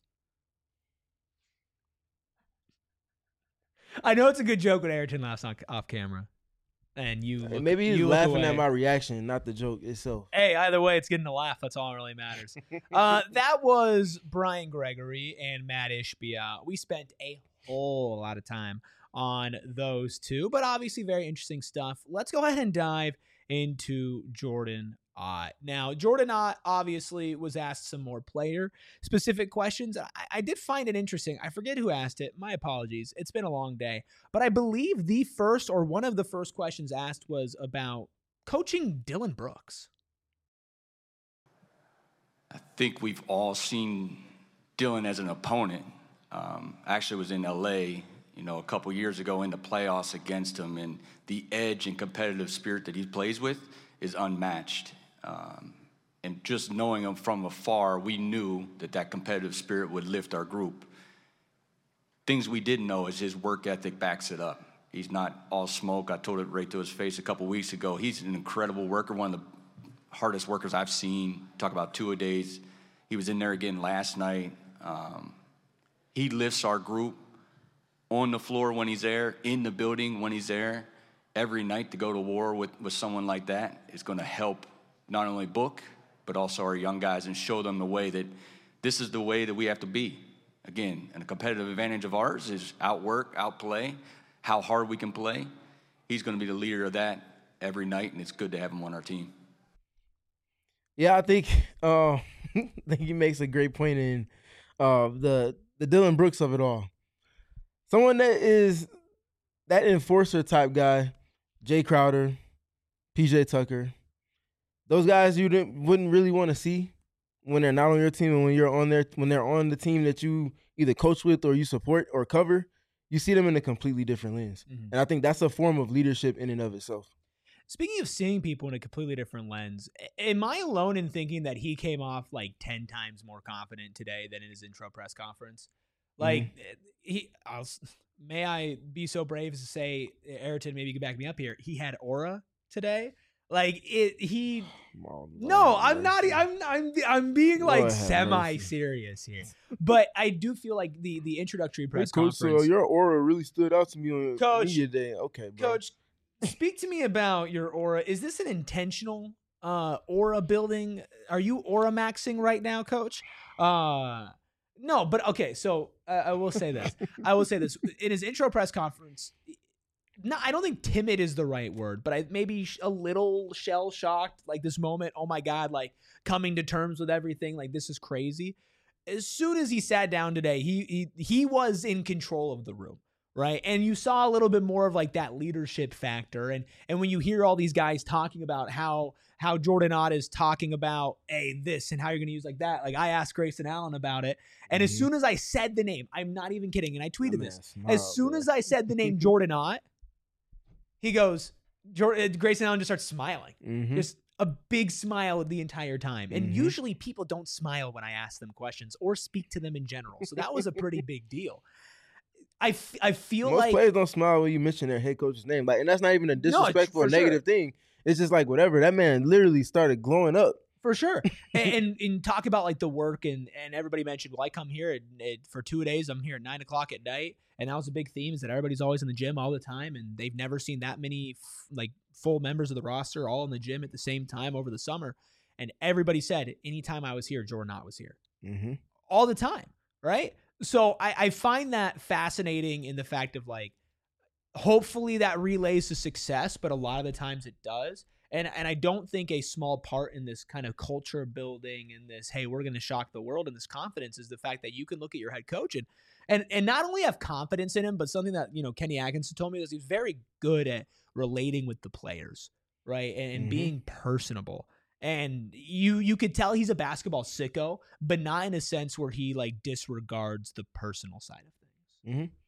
I know it's a good joke when Ayrton laughs off camera. And maybe he's laughing at my reaction, not the joke itself. Hey, either way, it's getting a laugh. That's all that really matters. That was Brian Gregory and Matt Ishbia. We spent a whole lot of time on those two, but obviously very interesting stuff. Let's go ahead and dive into Jordan Now, Jordan Ott obviously was asked some more player-specific questions. I did find it interesting. I forget who asked it. My apologies. It's been a long day. But I believe the first or one of the first questions asked was about coaching Dillon Brooks. I think we've all seen Dillon as an opponent. Actually was in LA, a couple years ago in the playoffs against him, and the edge and competitive spirit that he plays with is unmatched. And just knowing him from afar, we knew that competitive spirit would lift our group. Things we didn't know is his work ethic backs it up. He's not all smoke. I told it right to his face a couple weeks ago. He's an incredible worker, one of the hardest workers I've seen. Talk about two-a-days. He was in there again last night. He lifts our group on the floor when he's there, in the building when he's there. Every night to go to war with someone like that is going to help not only Book, but also our young guys and show them the way that this is the way that we have to be. Again, and a competitive advantage of ours is outwork, outplay, how hard we can play. He's going to be the leader of that every night, and it's good to have him on our team. Yeah, I think he makes a great point in the Dillon Brooks of it all. Someone that is that enforcer type guy, Jay Crowder, PJ Tucker, those guys you wouldn't really want to see when they're not on your team, and when they're on the team that you either coach with or you support or cover, you see them in a completely different lens. Mm-hmm. And I think that's a form of leadership in and of itself. Speaking of seeing people in a completely different lens, am I alone in thinking that he came off like 10 times more confident today than in his intro press conference? Like, may I be so brave as to say, Ayrton, maybe you can back me up here. He had aura today. Like I'm not. I'm being like semi-serious here, but I do feel like the introductory press conference. Coach, so your aura really stood out to me on media day. Okay, bro. Coach, speak to me about your aura. Is this an intentional aura building? Are you aura maxing right now, Coach? No, but okay. So I will say this. In his intro press conference. No, I don't think timid is the right word, but I maybe a little shell shocked, like this moment. Oh my God, like coming to terms with everything. Like this is crazy. As soon as he sat down today, he was in control of the room, right? And you saw a little bit more of like that leadership factor. And when you hear all these guys talking about how Jordan Ott is talking about this and how you're going to use like that. Like I asked Grayson Allen about it. And as soon as I said the name, I'm not even kidding. And I tweeted this. As soon as I said the name Jordan Ott, he goes, Grayson Allen just starts smiling. Mm-hmm. Just a big smile the entire time. And usually people don't smile when I ask them questions or speak to them in general. So that was a pretty big deal. I feel most like players don't smile when you mention their head coach's name. Like, and that's not even a disrespectful or negative thing. It's just like whatever. That man literally started glowing up. For sure. and talk about like the work and everybody mentioned, well, I come here for 2 days. I'm here at 9:00 at night. And that was a big theme is that everybody's always in the gym all the time. And they've never seen that many full members of the roster all in the gym at the same time over the summer. And everybody said, anytime I was here, Jordan Ott was here. Mm-hmm. All the time. Right. So I find that fascinating in the fact of like, hopefully that relays to success, but a lot of the times it does. And I don't think a small part in this kind of culture building and this, hey, we're going to shock the world and this confidence is the fact that you can look at your head coach and not only have confidence in him, but something that, Kenny Atkinson told me is he's very good at relating with the players, right? And being personable. And you could tell he's a basketball sicko, but not in a sense where he like disregards the personal side of things. Mm-hmm.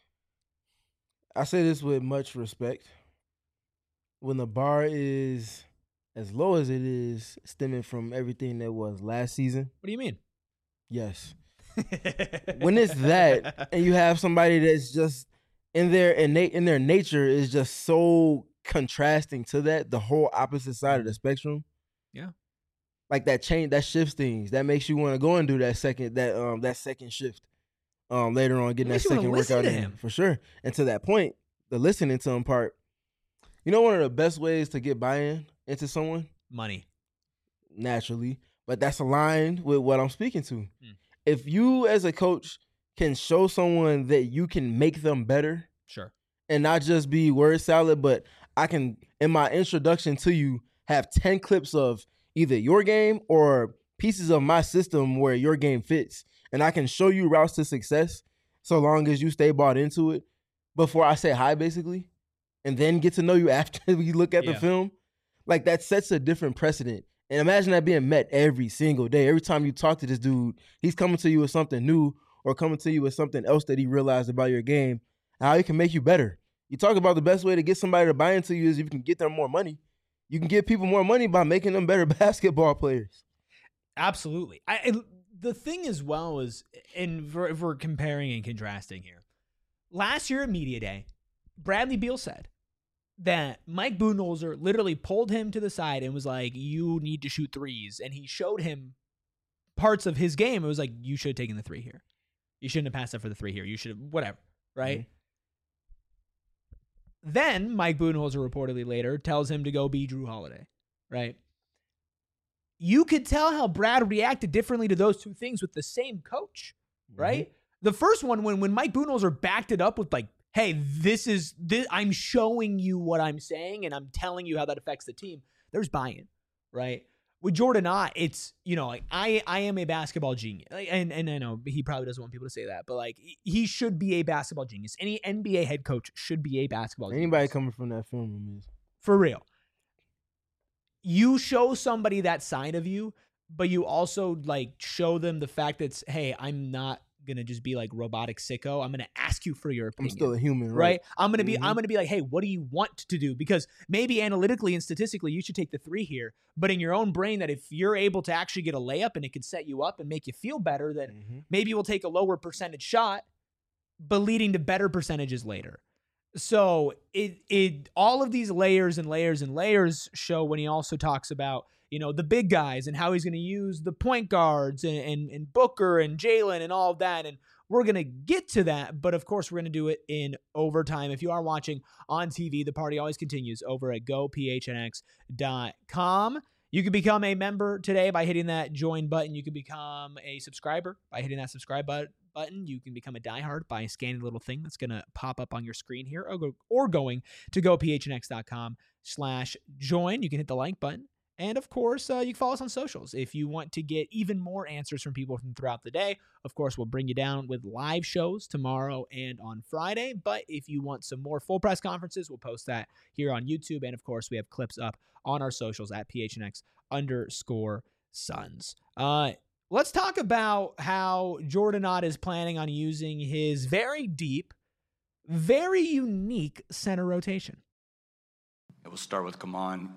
I say this with much respect. When the bar is as low as it is, stemming from everything that was last season. What do you mean? Yes. When it's that, and you have somebody that's just in their nature is just so contrasting to that, the whole opposite side of the spectrum. Yeah. Like that shifts things. That makes you want to go and do that second shift. Later on, getting that second workout in for sure. And to that point, the listening to him part. You know, one of the best ways to get buy-in into someone? Money. Naturally. But that's aligned with what I'm speaking to. If you as a coach can show someone that you can make them better. Sure. And not just be word salad, but I can, in my introduction to you, have 10 clips of either your game or pieces of my system where your game fits. And I can show you routes to success so long as you stay bought into it before I say hi, basically, and then get to know you after we look at the film. Like, that sets a different precedent. And imagine that being met every single day. Every time you talk to this dude, he's coming to you with something new or coming to you with something else that he realized about your game, and how he can make you better. You talk about the best way to get somebody to buy into you is if you can get them more money. You can give people more money by making them better basketball players. Absolutely. The thing as well is, if we're comparing and contrasting here, last year at Media Day, Bradley Beal said that Mike Budenholzer literally pulled him to the side and was like, you need to shoot threes. And he showed him parts of his game. It was like, you should have taken the three here. You shouldn't have passed up for the three here. You should have, whatever, right? Mm-hmm. Then Mike Budenholzer reportedly later tells him to go be Jrue Holiday, right? You could tell how Brad reacted differently to those two things with the same coach, right? Mm-hmm. The first one, when Mike Budenholzer backed it up with like, hey, this I'm showing you what I'm saying and I'm telling you how that affects the team, there's buy-in, right? With Jordan Ott, it's, like I am a basketball genius. And I know he probably doesn't want people to say that, but like he should be a basketball genius. Any NBA head coach should be a basketball genius. Anybody coming from that film room is. For real. You show somebody that side of you, but you also like show them the fact that, hey, I'm not gonna just be like robotic sicko. I'm gonna ask you for your opinion. I'm still a human, right? I'm gonna be like, hey, what do you want to do? Because maybe analytically and statistically you should take the three here, but in your own brain, that if you're able to actually get a layup and it can set you up and make you feel better, then maybe we'll take a lower percentage shot, but leading to better percentages later. So it all of these layers and layers and layers show when he also talks about, the big guys and how he's going to use the point guards and Booker and Jalen and all of that. And we're going to get to that. But of course, we're going to do it in overtime. If you are watching on TV, the party always continues over at gophnx.com. You can become a member today by hitting that join button. You can become a subscriber by hitting that subscribe button. You can become a diehard by scanning the little thing that's going to pop up on your screen here or going to gophnx.com/join. You can hit the like button. And of course, you can follow us on socials. If you want to get even more answers from people from throughout the day, of course, we'll bring you down with live shows tomorrow and on Friday. But if you want some more full press conferences, we'll post that here on YouTube. And of course, we have clips up on our socials at PHNX_Suns. Let's talk about how Jordan Ott is planning on using his very deep, very unique center rotation. We'll start with Kaman.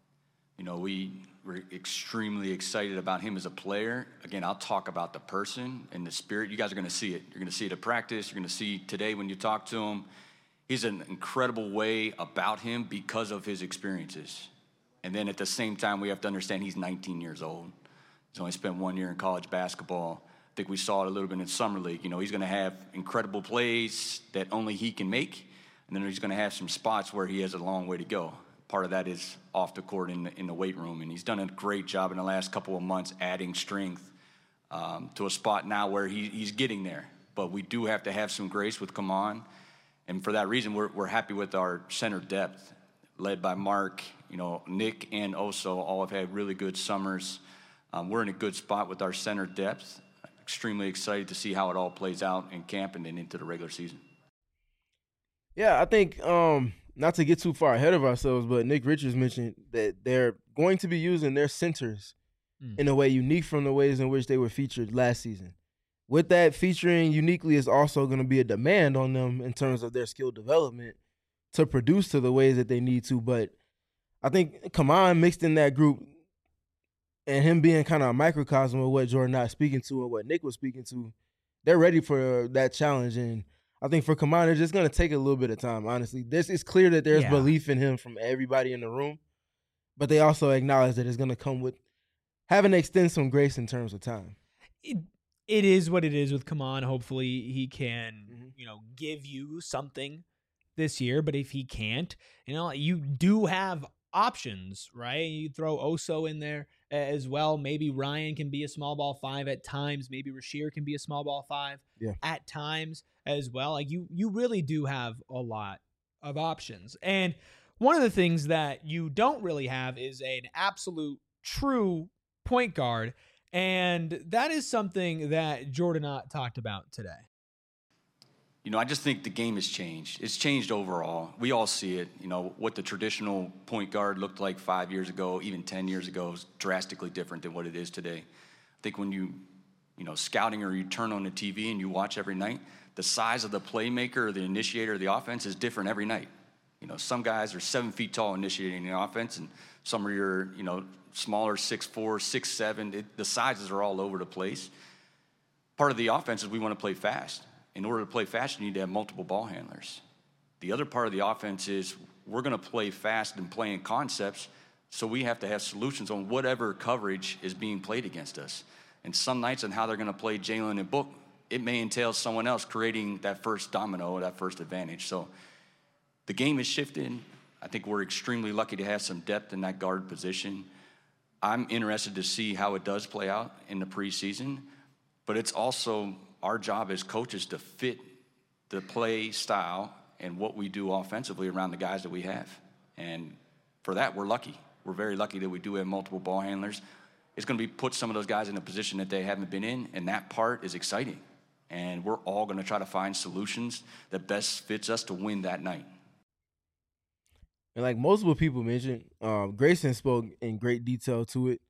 We were extremely excited about him as a player. Again, I'll talk about the person and the spirit. You guys are going to see it. You're going to see it at practice. You're going to see today when you talk to him. He's an incredible way about him because of his experiences. And then at the same time, we have to understand he's 19 years old. He's only spent 1 year in college basketball. I think we saw it a little bit in Summer League. He's going to have incredible plays that only he can make. And then he's going to have some spots where he has a long way to go. Part of that is off the court in the weight room. And he's done a great job in the last couple of months adding strength to a spot now where he's getting there. But we do have to have some grace with Kaman. And for that reason, we're happy with our center depth, led by Mark. Nick and Oso all have had really good summers. We're in a good spot with our center depth. Extremely excited to see how it all plays out in camp and then into the regular season. Yeah, I think not to get too far ahead of ourselves, but Nick Richards mentioned that they're going to be using their centers in a way unique from the ways in which they were featured last season. With that, featuring uniquely is also going to be a demand on them in terms of their skill development to produce to the ways that they need to. But I think Kaman mixed in that group and him being kind of a microcosm of what Jordan Ott speaking to and what Nick was speaking to, they're ready for that challenge. And I think for Kaman, it's just going to take a little bit of time, honestly. It's clear that there's belief in him from everybody in the room, but they also acknowledge that it's going to come with having to extend some grace in terms of time. It is what it is with Kaman. Hopefully he can, give you something this year, but if he can't, you do have options, right? You throw Oso in there as well. Maybe Ryan can be a small ball 5 at times. Maybe Rasheer can be a small ball 5 at times as well. Like you really do have a lot of options. And one of the things that you don't really have is an absolute true point guard. And that is something that Jordan Ott talked about today. I just think the game has changed. It's changed overall. We all see it. What the traditional point guard looked like 5 years ago, even 10 years ago, is drastically different than what it is today. I think when you scouting or you turn on the TV and you watch every night, the size of the playmaker or the initiator of the offense is different every night. Some guys are 7 feet tall initiating the offense, and some are your, smaller, 6'4", 6'7". The sizes are all over the place. Part of the offense is we want to play fast. In order to play fast, you need to have multiple ball handlers. The other part of the offense is we're going to play fast and play in concepts, so we have to have solutions on whatever coverage is being played against us. And some nights on how they're going to play Jalen and Book, it may entail someone else creating that first domino or that first advantage. So the game has shifted. I think we're extremely lucky to have some depth in that guard position. I'm interested to see how it does play out in the preseason, but it's also our job as coaches to fit the play style and what we do offensively around the guys that we have. And for that, we're lucky. We're very lucky that we do have multiple ball handlers. It's going to put some of those guys in a position that they haven't been in, and that part is exciting. And we're all going to try to find solutions that best fits us to win that night. And like multiple people mentioned, Grayson spoke in great detail to it.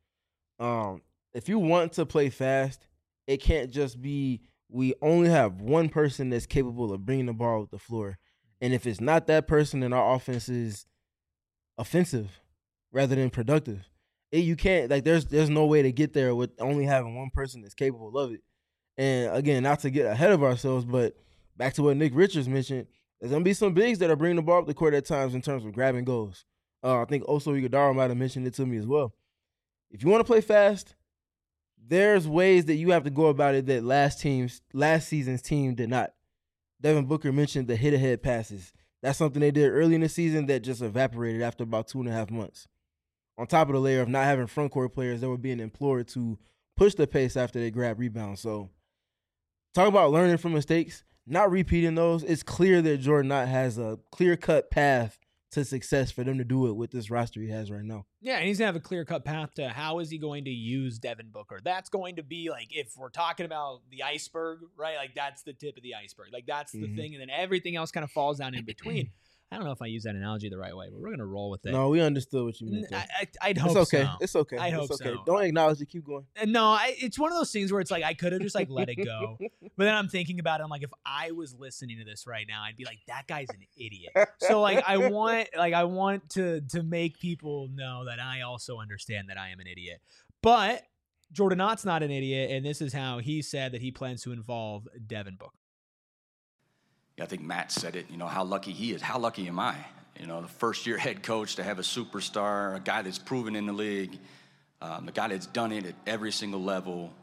If you want to play fast, it can't just be we only have one person that's capable of bringing the ball with the floor. And if it's not that person, then our offense is offensive rather than productive. You can't, there's no way to get there with only having one person that's capable of it. And again, not to get ahead of ourselves, but back to what Nick Richards mentioned, there's going to be some bigs that are bringing the ball up the court at times in terms of grabbing goals. I think Oso Ighodaro might have mentioned it to me as well. If you want to play fast, there's ways that you have to go about it that last season's team did not. Devin Booker mentioned the hit-ahead passes. That's something they did early in the season that just evaporated after about 2.5 months. On top of the layer of not having front court players that were being implored to push the pace after they grab rebounds. So talk about learning from mistakes, not repeating those. It's clear that Jordan Knott has a clear-cut path to success for them to do it with this roster he has right now. Yeah, and he's going to have a clear-cut path to how is he going to use Devin Booker. That's going to be, if we're talking about the iceberg, right? That's the tip of the iceberg. That's the thing, and then everything else kind of falls down in between. I don't know if I use that analogy the right way, but we're going to roll with it. No, we understood what you meant. I'd hope it's okay. so. It's okay. I hope okay. so. Don't acknowledge it. Keep going. No, it's one of those things where it's I could have just let it go. But then I'm thinking about it. I'm if I was listening to this right now, I'd be that guy's an idiot. So I want to make people know that I also understand that I am an idiot. But Jordan Knott's not an idiot, and this is how he said that he plans to involve Devin Booker. Yeah, I think Matt said it. How lucky he is. How lucky am I? The first-year head coach to have a superstar, a guy that's proven in the league, a guy that's done it at every single level,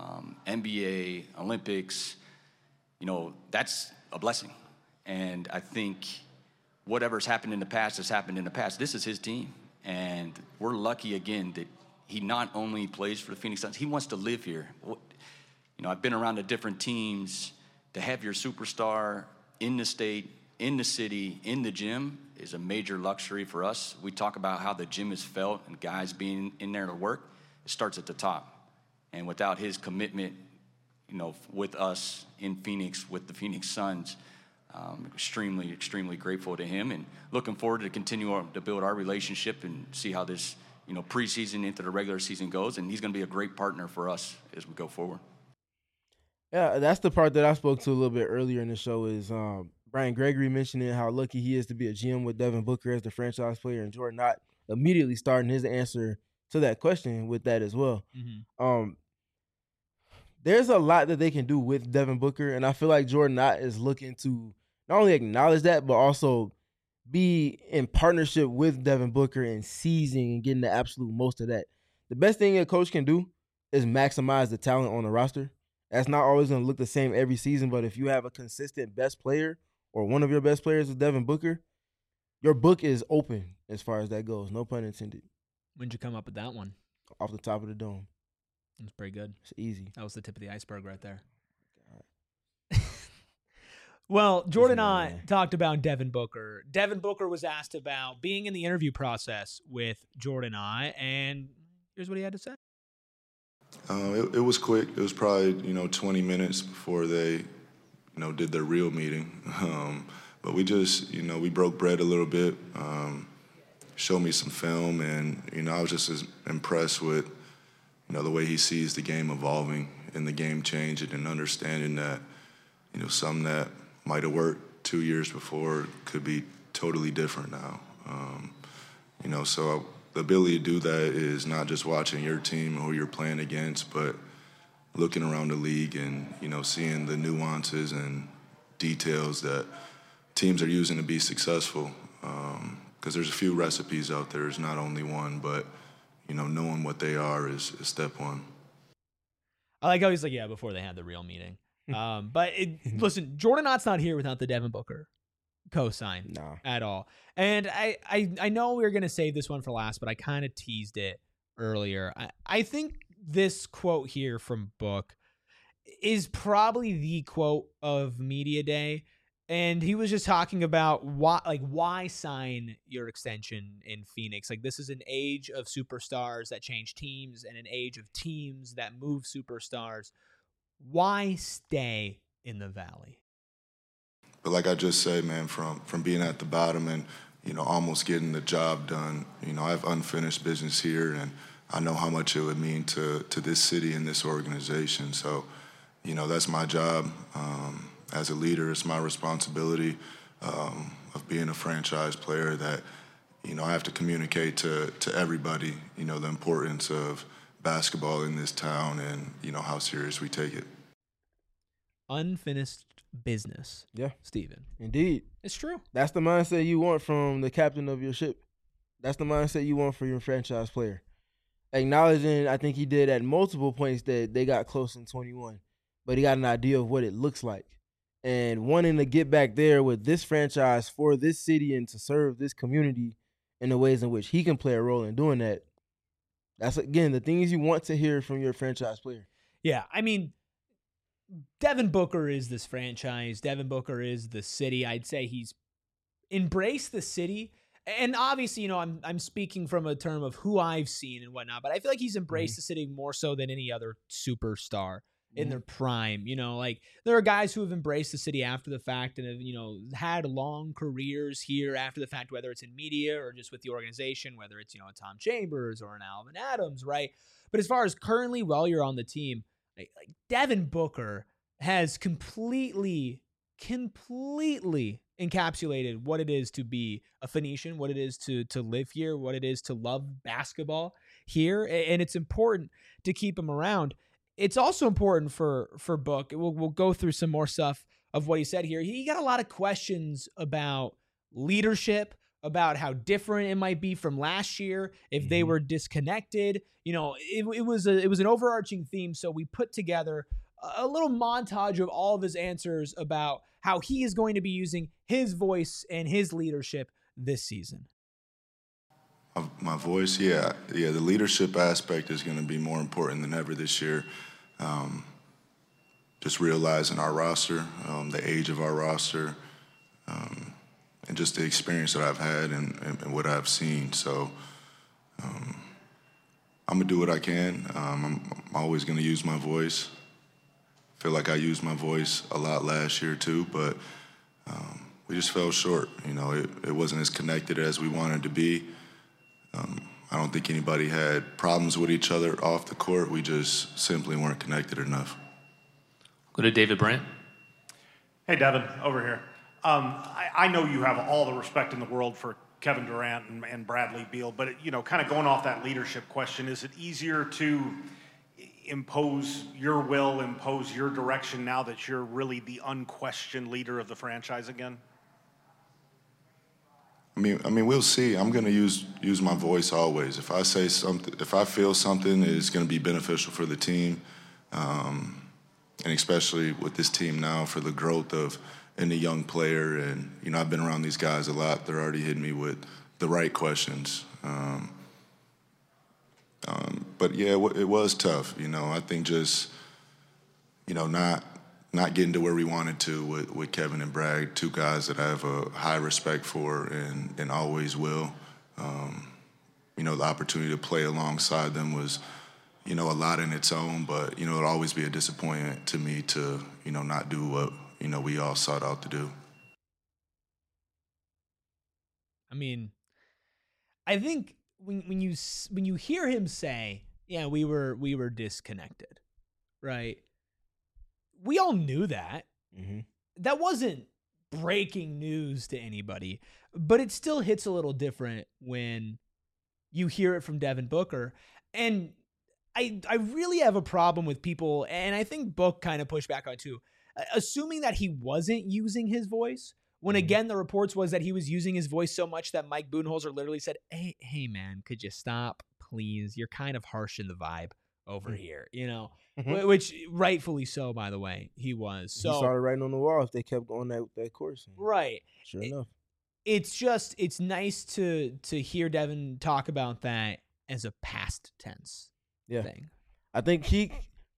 NBA, Olympics, that's a blessing. And I think whatever's happened in the past has happened in the past. This is his team. And we're lucky, again, that he not only plays for the Phoenix Suns, he wants to live here. I've been around the different teams. To have your superstar in the state, in the city, in the gym is a major luxury for us. We talk about how the gym is felt and guys being in there to work. It starts at the top. And without his commitment, with us in Phoenix, with the Phoenix Suns, extremely, extremely grateful to him and looking forward to continue to build our relationship and see how this, preseason into the regular season goes. And he's going to be a great partner for us as we go forward. Yeah, that's the part that I spoke to a little bit earlier in the show is Brian Gregory mentioning how lucky he is to be a GM with Devin Booker as the franchise player, and Jordan Knott immediately starting his answer to that question with that as well. Mm-hmm. There's a lot that they can do with Devin Booker, and I feel like Jordan Knott is looking to not only acknowledge that, but also be in partnership with Devin Booker and seizing and getting the absolute most of that. The best thing a coach can do is maximize the talent on the roster. That's not always going to look the same every season, but if you have a consistent best player or one of your best players is Devin Booker, your book is open as far as that goes. No pun intended. When'd you come up with that one? Off the top of the dome. That's pretty good. It's easy. That was the tip of the iceberg right there. Well, Jordan Knott talked about Devin Booker. Devin Booker was asked about being in the interview process with Jordan Knott, and Here's what he had to say. It was quick. It was probably 20 minutes before they did their real meeting. But we just we broke bread a little bit. Showed me some film, and I was just as impressed with the way he sees the game evolving and the game changing, and understanding that something that might have worked 2 years before could be totally different now. So the ability to do that is not just watching your team or who you're playing against, but looking around the league and seeing the nuances and details that teams are using to be successful. Because there's a few recipes out there. There's not only one, but knowing what they are is step one. I like how he's like, yeah, before they had the real meeting. But listen, Jordan Knott's not here without the Devin Booker cosign at all. And I know we were going to save this one for last, but I kind of teased it earlier. I think this quote here from Book is probably the quote of Media Day. And he was just talking about why sign your extension in Phoenix? Like, this is an age of superstars that change teams and an age of teams that move superstars. Why stay in the Valley? But like I just said, man, from being at the bottom and, almost getting the job done, I have unfinished business here, and I know how much it would mean to this city and this organization. So, that's my job. As a leader, it's my responsibility of being a franchise player that, I have to communicate to everybody, the importance of basketball in this town and, how serious we take it. Unfinished business. Yeah. Steven. Indeed. It's true. That's the mindset you want from the captain of your ship. That's the mindset you want for your franchise player. Acknowledging, I think he did at multiple points that they got close in 21, but he got an idea of what it looks like. And wanting to get back there with this franchise for this city and to serve this community in the ways in which he can play a role in doing that. That's, again, the things you want to hear from your franchise player. Yeah, I mean, Devin Booker is this franchise. Devin Booker is the city. I'd say he's embraced the city. And obviously, I'm speaking from a term of who I've seen and whatnot, but I feel like he's embraced the city more so than any other superstar in their prime. There are guys who have embraced the city after the fact and have, had long careers here after the fact, whether it's in media or just with the organization, whether it's, a Tom Chambers or an Alvin Adams, right? But as far as currently, while you're on the team, like Devin Booker has completely encapsulated what it is to be a Phoenician, what it is to live here, what it is to love basketball here. And it's important to keep him around. It's also important for Book. We'll go through some more stuff of what he said here. He got a lot of questions about leadership, about how different it might be from last year if they were disconnected. It was an overarching theme, so we put together a little montage of all of his answers about how he is going to be using his voice and his leadership this season. My voice, yeah. The leadership aspect is going to be more important than ever this year. Just realizing our roster, the age of our roster, and just the experience that I've had and what I've seen. So I'm going to do what I can. I'm always going to use my voice. I feel like I used my voice a lot last year too, but we just fell short. It wasn't as connected as we wanted to be. I don't think anybody had problems with each other off the court. We just simply weren't connected enough. Go to David Brandt. Hey, Devin, over here. I know you have all the respect in the world for Kevin Durant and Bradley Beal, but kind of going off that leadership question, is it easier to impose your will, impose your direction now that you're really the unquestioned leader of the franchise again? I mean, we'll see. I'm going to use my voice always. If I say something, if I feel something is going to be beneficial for the team, and especially with this team now for the growth of any young player, and I've been around these guys a lot. They're already hitting me with the right questions. But yeah, it was tough. I think just not getting to where we wanted to with Kevin and Bragg, two guys that I have a high respect for and always will. the opportunity to play alongside them was, a lot in its own, but, it'll always be a disappointment to me to, not do what, we all sought out to do. I mean, I think when you hear him say, yeah, we were disconnected, right? We all knew that. Mm-hmm. That wasn't breaking news to anybody, but it still hits a little different when you hear it from Devin Booker. And I really have a problem with people, and I think Book kind of pushed back on it too, assuming that he wasn't using his voice, when again the reports was that he was using his voice so much that Mike Budenholzer literally said, hey man, could you stop, please? You're kind of harsh in the vibe over here, which rightfully so, by the way, he was. So he started writing on the wall if they kept going that course. Right. Sure enough. It's nice to hear Devin talk about that as a past tense thing. I think he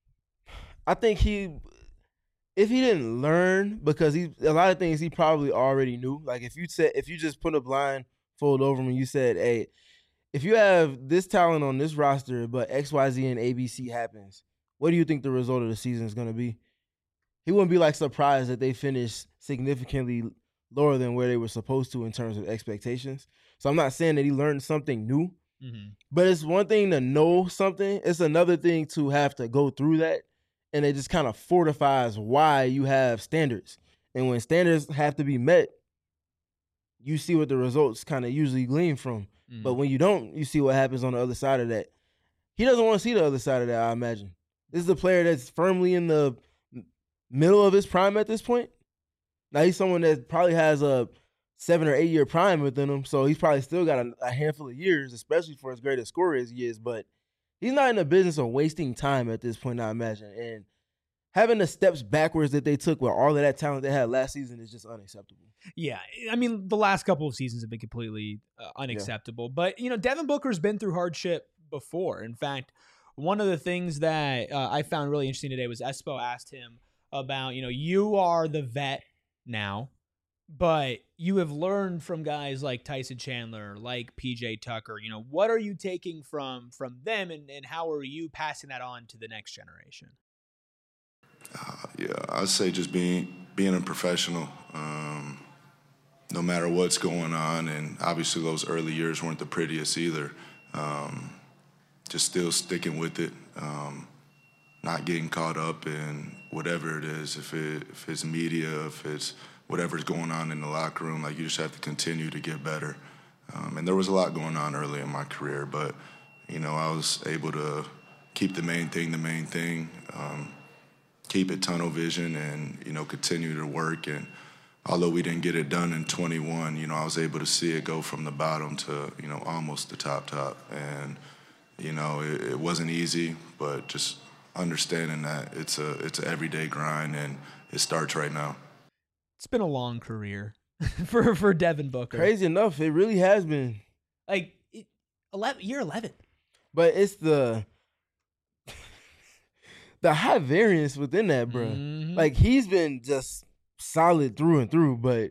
if he didn't learn, because a lot of things he probably already knew. Like if you just put a blindfold over him and you said, hey, if you have this talent on this roster, but XYZ and ABC happens, what do you think the result of the season is going to be? He wouldn't be surprised that they finished significantly lower than where they were supposed to in terms of expectations. So I'm not saying that he learned something new, but it's one thing to know something. It's another thing to have to go through that. And it just kind of fortifies why you have standards. And when standards have to be met, you see what the results kind of usually glean from. But when you don't, you see what happens on the other side of that. He doesn't want to see the other side of that, I imagine. This is a player that's firmly in the middle of his prime at this point. Now, he's someone that probably has a 7 or 8 year prime within him, so he's probably still got a handful of years, especially for as great a scorer as he is. But he's not in the business of wasting time at this point, I imagine. And having the steps backwards that they took with all of that talent they had last season is just unacceptable. Yeah, I mean, the last couple of seasons have been completely unacceptable. But, Devin Booker's been through hardship before. In fact, one of the things that I found really interesting today was Espo asked him about, you are the vet now, but you have learned from guys like Tyson Chandler, like PJ Tucker. What are you taking from them, and how are you passing that on to the next generation? I'd say just being a professional, no matter what's going on. And obviously those early years weren't the prettiest either. Just still sticking with it, not getting caught up in whatever it is, if it's media, if it's whatever's going on in the locker room. You just have to continue to get better. And there was a lot going on early in my career, but, I was able to keep the main thing, keep it tunnel vision and, continue to work. And although we didn't get it done in 21, I was able to see it go from the bottom to, almost the top. And, it wasn't easy, but just understanding that it's an everyday grind and it starts right now. It's been a long career for Devin Booker. Crazy enough, it really has been. Year 11. But it's the high variance within that, bro. Mm-hmm. He's been just solid through and through, but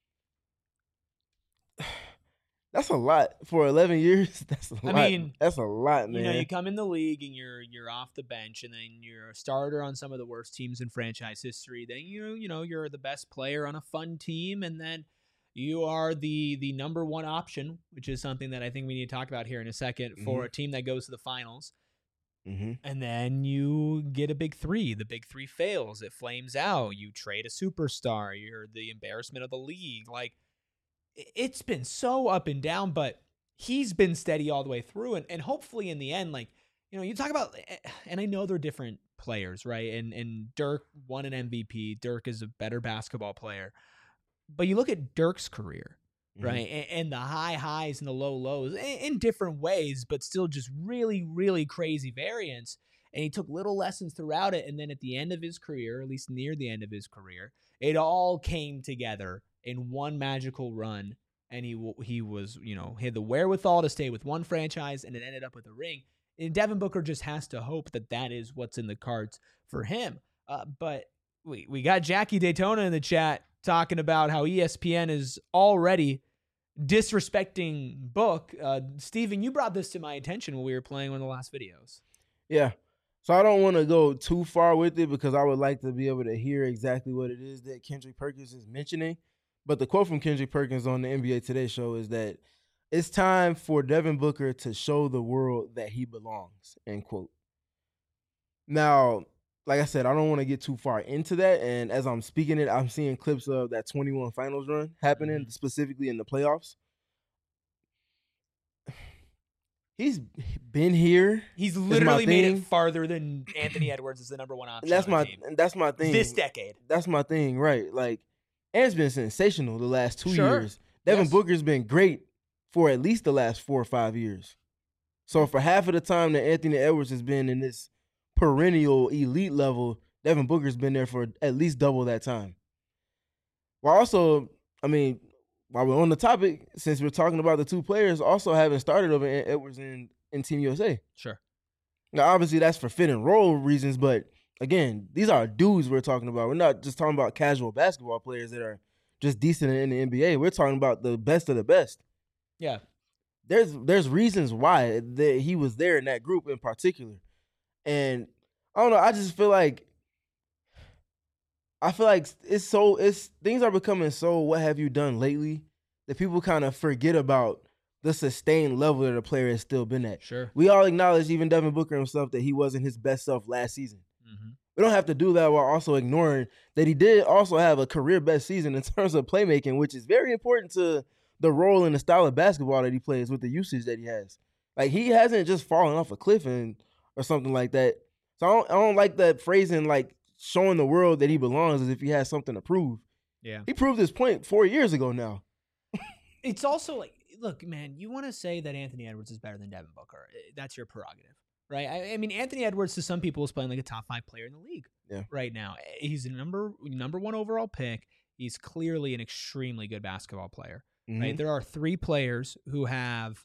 that's a lot for 11 years. That's a lot. I mean, that's a lot, man. You come in the league and you're off the bench, and then you're a starter on some of the worst teams in franchise history. Then you're the best player on a fun team, and then you are the number one option, which is something that I think we need to talk about here in a second, for a team that goes to the finals. Mm-hmm. And then you get a big three. The big three fails. It flames out. You trade a superstar. You're the embarrassment of the league. It's been so up and down, but he's been steady all the way through. And hopefully in the end, you talk about, and I know they're different players, right? And Dirk won an MVP. Dirk is a better basketball player. But you look at Dirk's career, right? And the high highs and the low lows in different ways, but still just really, really crazy variance. And he took little lessons throughout it. And then at the end of his career, at least near the end of his career, it all came together in one magical run. And he was, he had the wherewithal to stay with one franchise, and it ended up with a ring. And Devin Booker just has to hope that is what's in the cards for him. But we got Jackie Daytona in the chat talking about how ESPN is already disrespecting Book. Steven, you brought this to my attention when we were playing one of the last videos. Yeah. So I don't want to go too far with it because I would like to be able to hear exactly what it is that Kendrick Perkins is mentioning. But the quote from Kendrick Perkins on the NBA Today show is that it's time for Devin Booker to show the world that he belongs, end quote. Now, like I said, I don't want to get too far into that. And as I'm speaking it, I'm seeing clips of that 21 finals run happening, specifically in the playoffs. He's been here. He's literally made it farther than Anthony Edwards is the number one option. That's on the team. That's my thing. This decade. That's my thing, right? Like, Ant's been sensational the last 2 Sure. years. Devin Booker's been great for at least the last 4 or 5 years. So for half of the time that Anthony Edwards has been in this perennial elite level, Devin Booker's been there for at least double that time. While also, I mean, while we're on the topic, since we're talking about the two players also having started over Edwards in Team USA. Sure. Now, obviously, that's for fit and role reasons, but again, these are dudes we're talking about. We're not just talking about casual basketball players that are just decent in the NBA. We're talking about the best of the best. Yeah. There's reasons why he was there in that group in particular. And I don't know, I just feel like things are becoming so what have you done lately that people kind of forget about the sustained level that a player has still been at. Sure. We all acknowledge, even Devin Booker himself, that he wasn't his best self last season. Mm-hmm. We don't have to do that while also ignoring that he did also have a career best season in terms of playmaking, which is very important to the role and the style of basketball that he plays with the usage that he has. Like, he hasn't just fallen off a cliff or something like that. So I don't like that phrasing, like showing the world that he belongs as if he has something to prove. Yeah. He proved his point 4 years ago now. It's also like, look, man, you want to say that Anthony Edwards is better than Devin Booker. That's your prerogative, right? I mean, Anthony Edwards to some people is playing like a top 5 player in the league right now. He's a number one overall pick. He's clearly an extremely good basketball player, right? There are 3 players who have,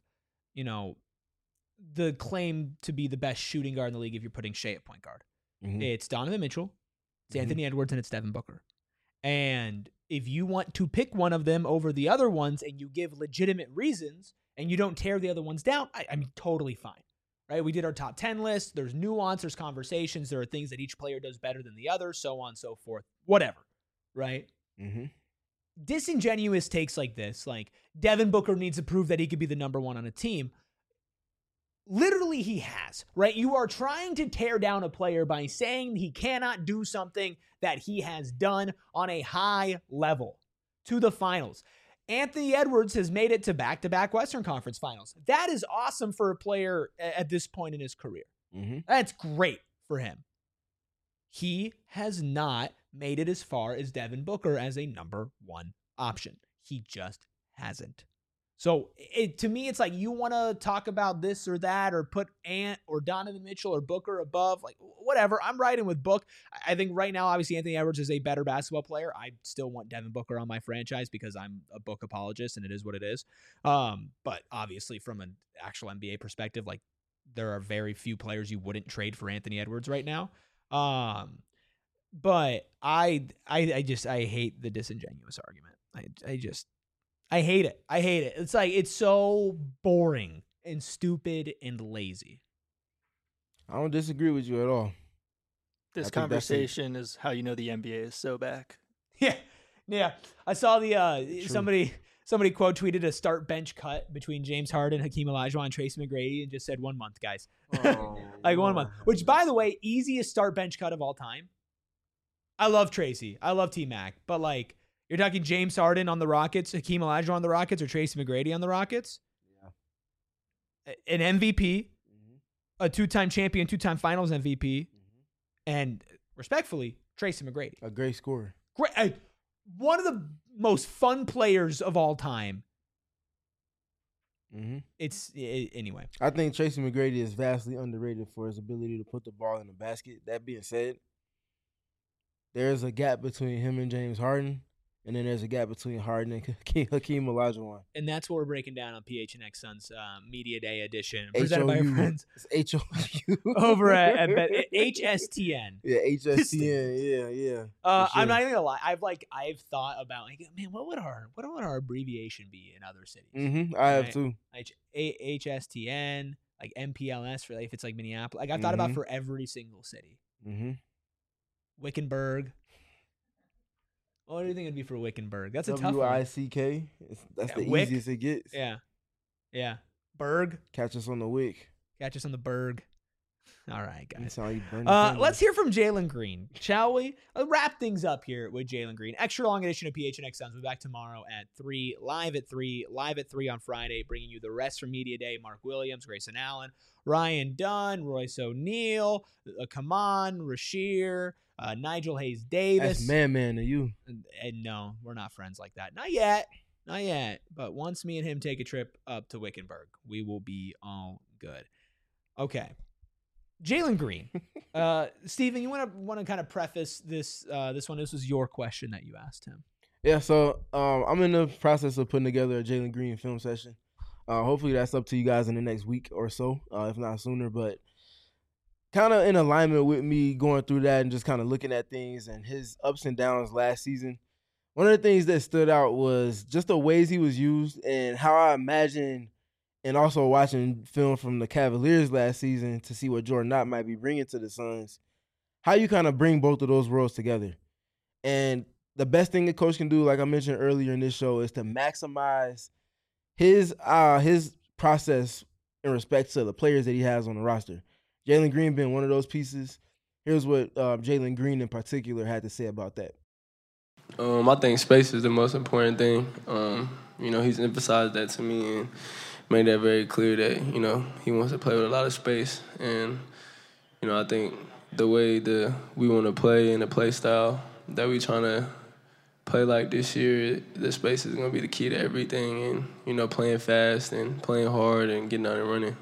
the claim to be the best shooting guard in the league if you're putting Shea at point guard. It's Donovan Mitchell, it's Anthony Edwards, and it's Devin Booker. And if you want to pick one of them over the other ones and you give legitimate reasons and you don't tear the other ones down, I mean, totally fine, right? We did our top 10 list. There's nuance, there's conversations, there are things that each player does better than the other, so on and so forth, whatever, right? Disingenuous takes like this, like Devin Booker needs to prove that he could be the number one on a team. Literally, he has, right? You are trying to tear down a player by saying he cannot do something that he has done on a high level to the finals. Anthony Edwards has made it to back-to-back Western Conference finals. That is awesome for a player at this point in his career. That's great for him. He has not made it as far as Devin Booker as a number one option. He just hasn't. So to me, it's like you want to talk about this or that or put Ant or Donovan Mitchell or Booker above, like whatever. I'm riding with Book. I think right now, obviously, Anthony Edwards is a better basketball player. I still want Devin Booker on my franchise because I'm a Book apologist and it is what it is. But obviously, from an actual NBA perspective, like there are very few players you wouldn't trade for Anthony Edwards right now. But I hate the disingenuous argument. I hate it. It's like, it's so boring and stupid and lazy. I don't disagree with you at all. This conversation is how you know the NBA is so back. Yeah. I saw the somebody quote tweeted a start bench cut between James Harden, Hakeem Olajuwon, and Tracy McGrady and just said 1 month, guys. Like 1 month. Which, by the way, easiest start bench cut of all time. I love Tracy. I love T-Mac. But like, you're talking James Harden on the Rockets, Hakeem Olajuwon on the Rockets, or Tracy McGrady on the Rockets? Yeah. An MVP, a 2-time champion, 2-time finals MVP, and respectfully, Tracy McGrady. A great scorer. Great. One of the most fun players of all time. Anyway. I think Tracy McGrady is vastly underrated for his ability to put the ball in the basket. That being said, there's a gap between him and James Harden And then there's a gap between Harden and Hakeem Olajuwon. And that's what we're breaking down on PHNX Suns Media Day edition. Presented by our friends. It's HOU. Over at HSTN. Yeah, HSTN. Yeah. Sure. I'm not even gonna lie. I've thought about man, what would our abbreviation be in other cities? Mm-hmm. I have too. HSTN, like MPLS for if it's like Minneapolis. Like I've thought about for every single city. Mm-hmm. Wickenburg. What do you think it'd be for Wickenburg? That's a tough one. WICK. That's the easiest it gets. Yeah. Berg. Catch us on the Wick. Catch us on the Berg. All right, guys. Let's hear from Jalen Green, shall we? Wrap things up here with Jalen Green. Extra long edition of PHNX Suns. We'll be back tomorrow at 3, live at 3 on Friday, bringing you the rest from Media Day. Mark Williams, Grayson Allen, Ryan Dunn, Royce O'Neal, Kaman, Rashir, Nigel Hayes Davis. That's man to you. And no, we're not friends like that. Not yet. But once me and him take a trip up to Wickenburg, we will be all good. Okay. Jalen Green. Steven, you want to kind of preface this one? This was your question that you asked him. Yeah, so I'm in the process of putting together a Jalen Green film session. Hopefully that's up to you guys in the next week or so, if not sooner. But kind of in alignment with me going through that and just kind of looking at things and his ups and downs last season. One of the things that stood out was just the ways he was used and how I imagine, and also watching film from the Cavaliers last season to see what Jordan Knott might be bringing to the Suns, how you kind of bring both of those worlds together. And the best thing a coach can do, like I mentioned earlier in this show, is to maximize his process in respect to the players that he has on the roster. Jalen Green being one of those pieces. Here's what Jalen Green in particular had to say about that. I think space is the most important thing. He's emphasized that to me and made that very clear that, he wants to play with a lot of space. And, I think the way we want to play and the play style that we trying to play like this year, the space is going to be the key to everything. And, playing fast and playing hard and getting out and running.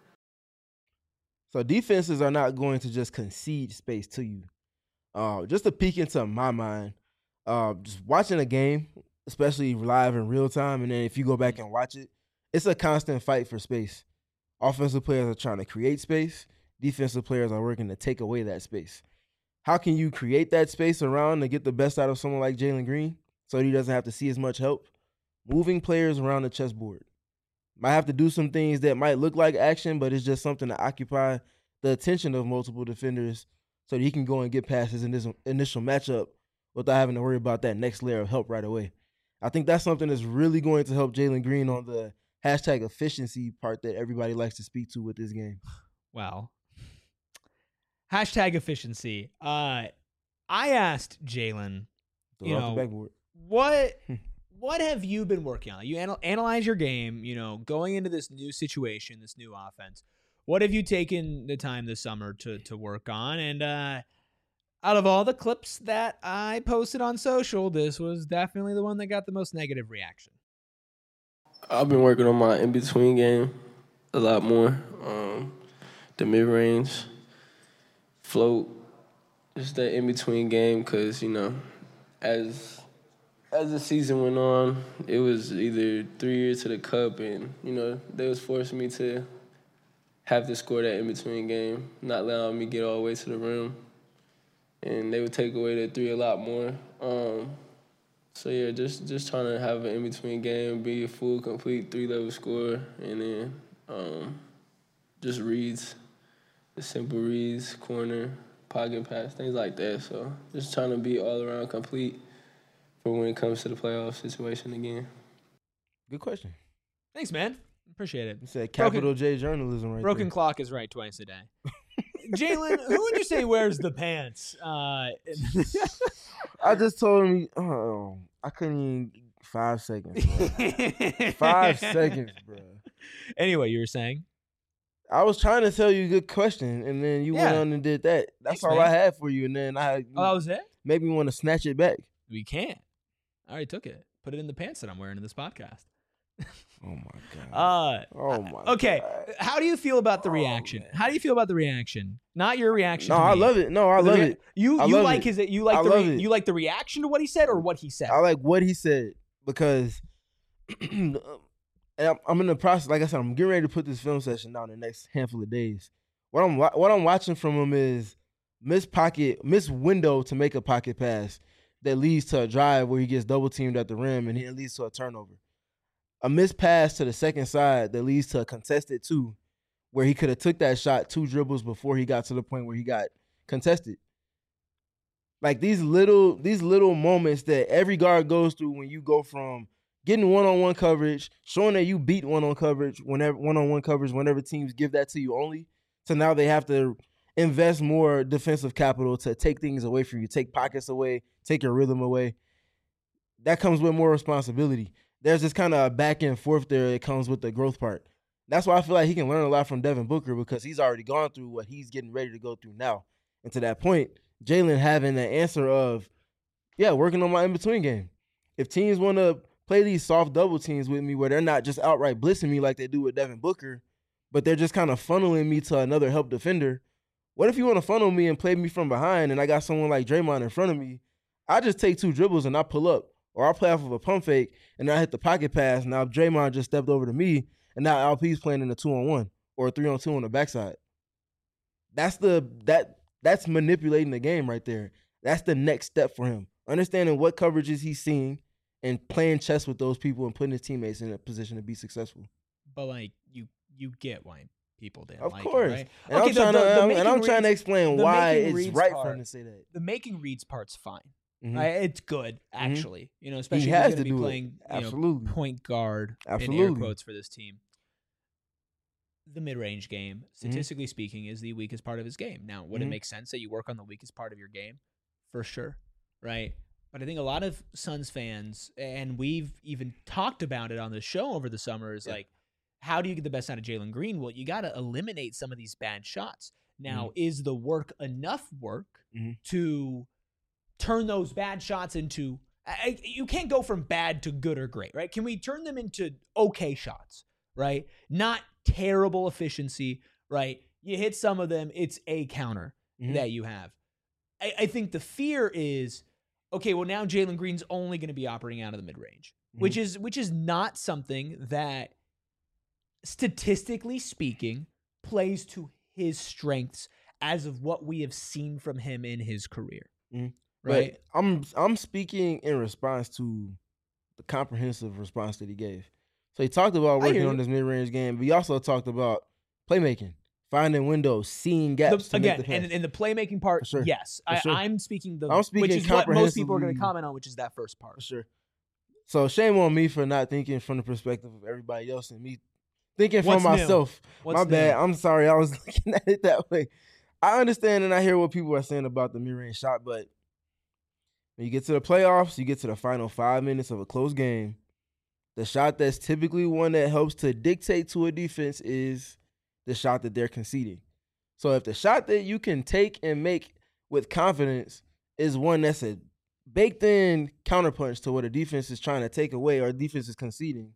So defenses are not going to just concede space to you. Just to peek into my mind, just watching a game, especially live in real time, and then if you go back and watch it, it's a constant fight for space. Offensive players are trying to create space. Defensive players are working to take away that space. How can you create that space around to get the best out of someone like Jalen Green so he doesn't have to see as much help? Moving players around the chessboard. Might have to do some things that might look like action, but it's just something to occupy the attention of multiple defenders so that he can go and get past his initial matchup without having to worry about that next layer of help right away. I think that's something that's really going to help Jalen Green on the hashtag efficiency part that everybody likes to speak to with this game. Wow. Hashtag efficiency. I asked Jalen, what have you been working on? You analyze your game, going into this new situation, this new offense. What have you taken the time this summer to work on? And out of all the clips that I posted on social, this was definitely the one that got the most negative reaction. I've been working on my in-between game a lot more. The mid-range, float, just that in-between game because, as the season went on, it was either 3 years to the cup and, they was forcing me to have to score that in-between game, not allowing me to get all the way to the rim. And they would take away the three a lot more. Just trying to have an in-between game, be a full, complete three-level scorer, and then just reads, the simple reads, corner, pocket pass, things like that. So just trying to be all-around complete for when it comes to the playoff situation again. Good question. Thanks, man. Appreciate it. You said capital J journalism right Broken there. Clock is right twice a day. Jalen, who would you say wears the pants? I just told him, I couldn't even 5 seconds, bro. 5 seconds, bro. Anyway, you were saying? I was trying to tell you a good question, and then you went on and did that. That's all I had for you, and then that was it? Made me want to snatch it back. We can't. I already took it. Put it in the pants that I'm wearing in this podcast. Oh my god. Okay. How do you feel about the reaction? How do you feel about the reaction? Not your reaction. No, to I me. love it. No, I love it. You love like it. you like I the love it. you like the reaction to what he said or what he said? I like what he said because and I'm in the process. Like I said, I'm getting ready to put this film session down in the next handful of days. What I'm watching from him is miss window to make a pocket pass that leads to a drive where he gets double teamed at the rim and it leads to a turnover. A missed pass to the second side that leads to a contested 2 where he could have took that shot 2 dribbles before he got to the point where he got contested. Like these little moments that every guard goes through when you go from getting one-on-one coverage, showing that you beat one-on-one coverage whenever teams give that to you only, to now they have to invest more defensive capital to take things away from you, take pockets away, take your rhythm away. That comes with more responsibility. There's this kind of back and forth there that comes with the growth part. That's why I feel like he can learn a lot from Devin Booker because he's already gone through what he's getting ready to go through now. And to that point, Jalen having the answer of, working on my in-between game. If teams want to play these soft double teams with me where they're not just outright blitzing me like they do with Devin Booker, but they're just kind of funneling me to another help defender, what if you want to funnel me and play me from behind and I got someone like Draymond in front of me? I just take 2 dribbles and I pull up. Or I'll play off of a pump fake, and then I hit the pocket pass. Now Draymond just stepped over to me, and now LP's playing in a 2-on-1 or a 3-on-2 on the backside. That's manipulating the game right there. That's the next step for him. Understanding what coverages he's seeing and playing chess with those people and putting his teammates in a position to be successful. But like you get why people didn't of like course. it, right? And Okay, I'm trying to explain why it's right for him to say that. The making reads part's fine. Mm-hmm. It's good, actually. Mm-hmm. Especially he if has he's going to be playing playing point guard in air quotes for this team. The mid-range game, statistically speaking, is the weakest part of his game. Now, would it make sense that you work on the weakest part of your game? For sure, right? But I think a lot of Suns fans, and we've even talked about it on the show over the summer, is like, how do you get the best out of Jalen Green? Well, you got to eliminate some of these bad shots. Now, is the work enough work to turn those bad shots into you can't go from bad to good or great, right? Can we turn them into okay shots, right? Not terrible efficiency, right? You hit some of them, it's a counter that you have. I think the fear is, okay, well now Jalen Green's only going to be operating out of the mid-range, which is not something that, statistically speaking, plays to his strengths as of what we have seen from him in his career. Right. But I'm speaking in response to the comprehensive response that he gave. So he talked about working on this mid-range game, but he also talked about playmaking, finding windows, seeing gaps to make the pass. And in the playmaking part, sure. yes. I'm speaking which is what most people are going to comment on, which is that first part. For sure. So shame on me for not thinking from the perspective of everybody else and me thinking for myself. My bad. I'm sorry. I was looking at it that way. I understand and I hear what people are saying about the mid-range shot, but when you get to the playoffs, you get to the final 5 minutes of a close game, the shot that's typically one that helps to dictate to a defense is the shot that they're conceding. So if the shot that you can take and make with confidence is one that's a baked-in counterpunch to what a defense is trying to take away or a defense is conceding,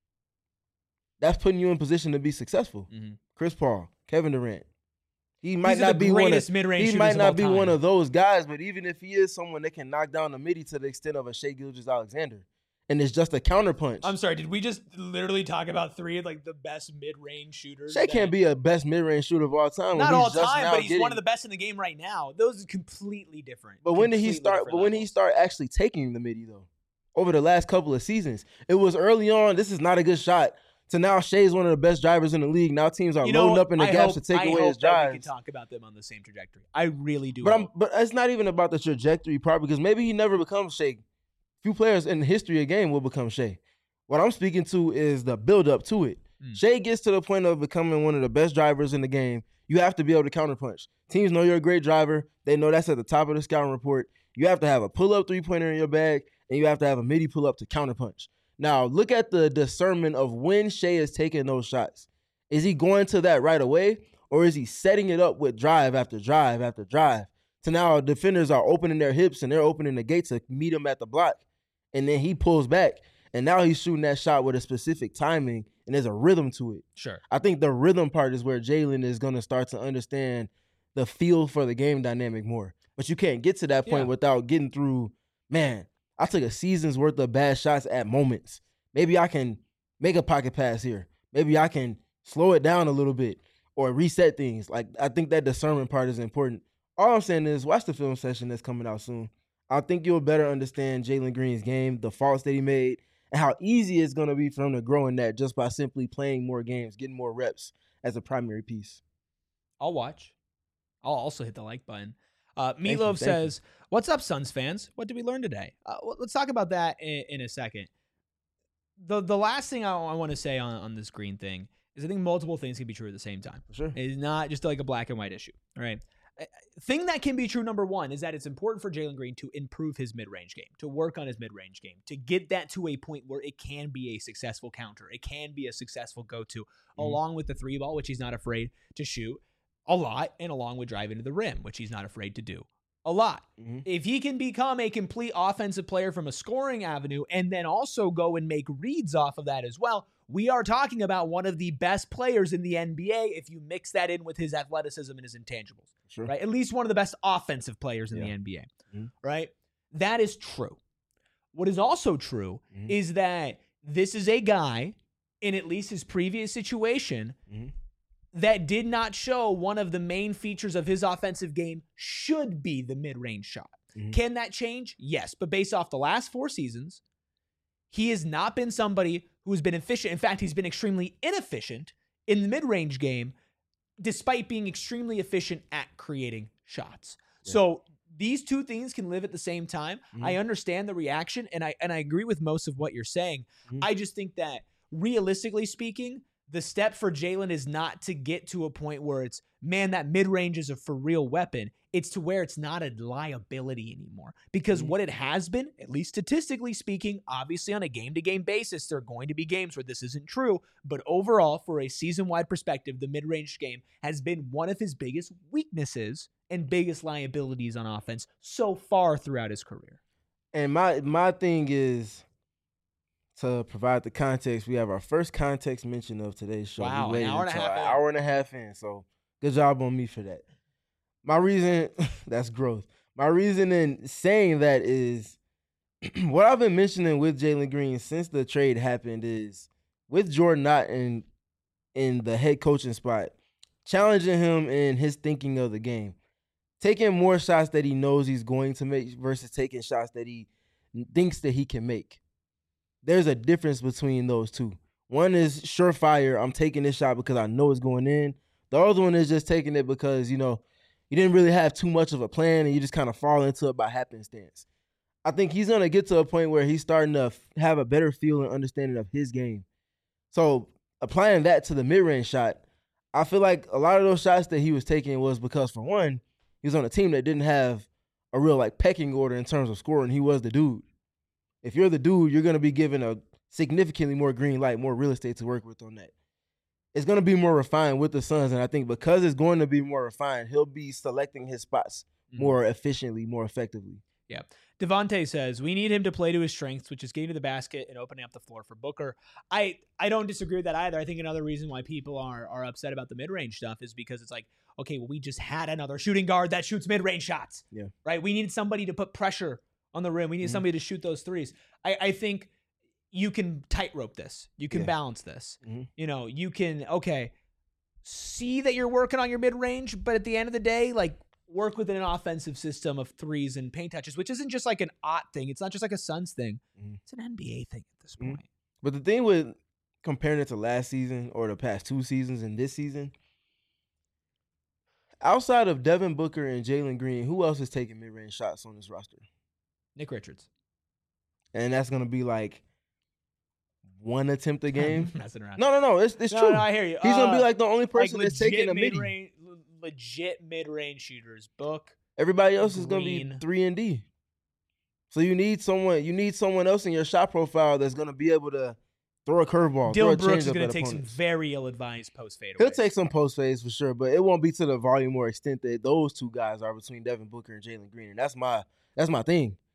that's putting you in position to be successful. Chris Paul, Kevin Durant. He might not be one of those guys, but even if he is someone that can knock down the midi to the extent of a Shai Gilgeous-Alexander, and it's just a counterpunch. I'm sorry, did we just literally talk about 3 of like the best mid-range shooters? Shai can't be a best mid-range shooter of all time. Not all time, but he's one of the best in the game right now. Those are completely different. But when did he start? But when he start actually taking the midi though, over the last couple of seasons, it was early on. This is not a good shot. So now Shai's one of the best drivers in the league. Now teams are loading up in the gaps to take away his drives. We can talk about them on the same trajectory. I really do. But it's not even about the trajectory part because maybe he never becomes Shai. Few players in the history of the game will become Shai. What I'm speaking to is the build-up to it. Shai gets to the point of becoming one of the best drivers in the game. You have to be able to counterpunch. Teams know you're a great driver. They know that's at the top of the scouting report. You have to have a pull-up three-pointer in your bag, and you have to have a midi pull-up to counterpunch. Now, look at the discernment of when Shai is taking those shots. Is he going to that right away, or is he setting it up with drive after drive after drive? So now defenders are opening their hips and they're opening the gate to meet him at the block, and then he pulls back. And now he's shooting that shot with a specific timing, and there's a rhythm to it. Sure. I think the rhythm part is where Jalen is going to start to understand the feel for the game dynamic more. But you can't get to that point without getting through, man, I took a season's worth of bad shots at moments. Maybe I can make a pocket pass here. Maybe I can slow it down a little bit or reset things. Like, I think that discernment part is important. All I'm saying is watch the film session that's coming out soon. I think you'll better understand Jalen Green's game, the faults that he made, and how easy it's going to be for him to grow in that just by simply playing more games, getting more reps as a primary piece. I'll watch. I'll also hit the like button. Meatloaf says, "What's up, Suns fans? What did we learn today?" Let's talk about that in a second. The last thing I want to say on this Green thing is I think multiple things can be true at the same time. Sure. It's not just like a black and white issue. All right. Thing that can be true, number one, is that it's important for Jalen Green to improve his mid-range game, to work on his mid-range game, to get that to a point where it can be a successful counter. It can be a successful go-to, along with the three ball, which he's not afraid to shoot a lot, and along with driving to the rim, which he's not afraid to do a lot. If he can become a complete offensive player from a scoring avenue and then also go and make reads off of that as well, we are talking about one of the best players in the NBA if you mix that in with his athleticism and his intangibles. Sure. Right? At least one of the best offensive players in the NBA. Right? That is true. What is also true is that this is a guy, in at least his previous situation, that did not show one of the main features of his offensive game should be the mid-range shot. Can that change? Yes. But based off the last 4 seasons, he has not been somebody who has been efficient. In fact, he's been extremely inefficient in the mid-range game, despite being extremely efficient at creating shots. Yeah. So these two things can live at the same time. I understand the reaction, and I agree with most of what you're saying. I just think that realistically speaking, the step for Jalen is not to get to a point where it's, man, that mid-range is a for real weapon. It's to where it's not a liability anymore. Because what it has been, at least statistically speaking, obviously on a game-to-game basis, there are going to be games where this isn't true. But overall, for a season-wide perspective, the mid-range game has been one of his biggest weaknesses and biggest liabilities on offense so far throughout his career. And my thing is, to provide the context, we have our first context mention of today's show. Wow, an hour and a half in. So good job on me for that. My reason, that's growth. My reason in saying that is what I've been mentioning with Jalen Green since the trade happened is with Jordan Knott in the head coaching spot, challenging him in his thinking of the game, taking more shots that he knows he's going to make versus taking shots that he thinks that he can make. There's a difference between those two. One is surefire, I'm taking this shot because I know it's going in. The other one is just taking it because, you didn't really have too much of a plan and you just kind of fall into it by happenstance. I think he's going to get to a point where he's starting to have a better feel and understanding of his game. So applying that to the mid-range shot, I feel like a lot of those shots that he was taking was because, for one, he was on a team that didn't have a real pecking order in terms of scoring. He was the dude. If you're the dude, you're going to be given a significantly more green light, more real estate to work with on that. It's going to be more refined with the Suns, and I think because it's going to be more refined, he'll be selecting his spots more efficiently, more effectively. Yeah. Devontae says, we need him to play to his strengths, which is getting to the basket and opening up the floor for Booker. I don't disagree with that either. I think another reason why people are upset about the mid-range stuff is because it's like, okay, well, we just had another shooting guard that shoots mid-range shots. Yeah. Right? We needed somebody to put pressure on the rim. We need somebody to shoot those threes. I think you can tightrope this. You can balance this. You can, see that you're working on your mid-range, but at the end of the day, work within an offensive system of threes and paint touches, which isn't just like an OT thing. It's not just like a Suns thing. It's an NBA thing at this point. But the thing with comparing it to last season or the past 2 seasons and this season, outside of Devin Booker and Jalen Green, who else is taking mid-range shots on this roster? Nick Richards. And that's going to be one attempt a game? Messing around. No, it's true. No, I hear you. He's going to be the only person that's taking a mid-range. Legit mid-range shooters. Book. Everybody else is going to be 3 and D. So you need someone else in your shot profile that's going to be able to throw a curveball. Dylan Brooks is going to take some very ill-advised post fadeaways. He'll take some post fades for sure, but it won't be to the volume or extent that those two guys are between Devin Booker and Jalen Green. And that's my thing.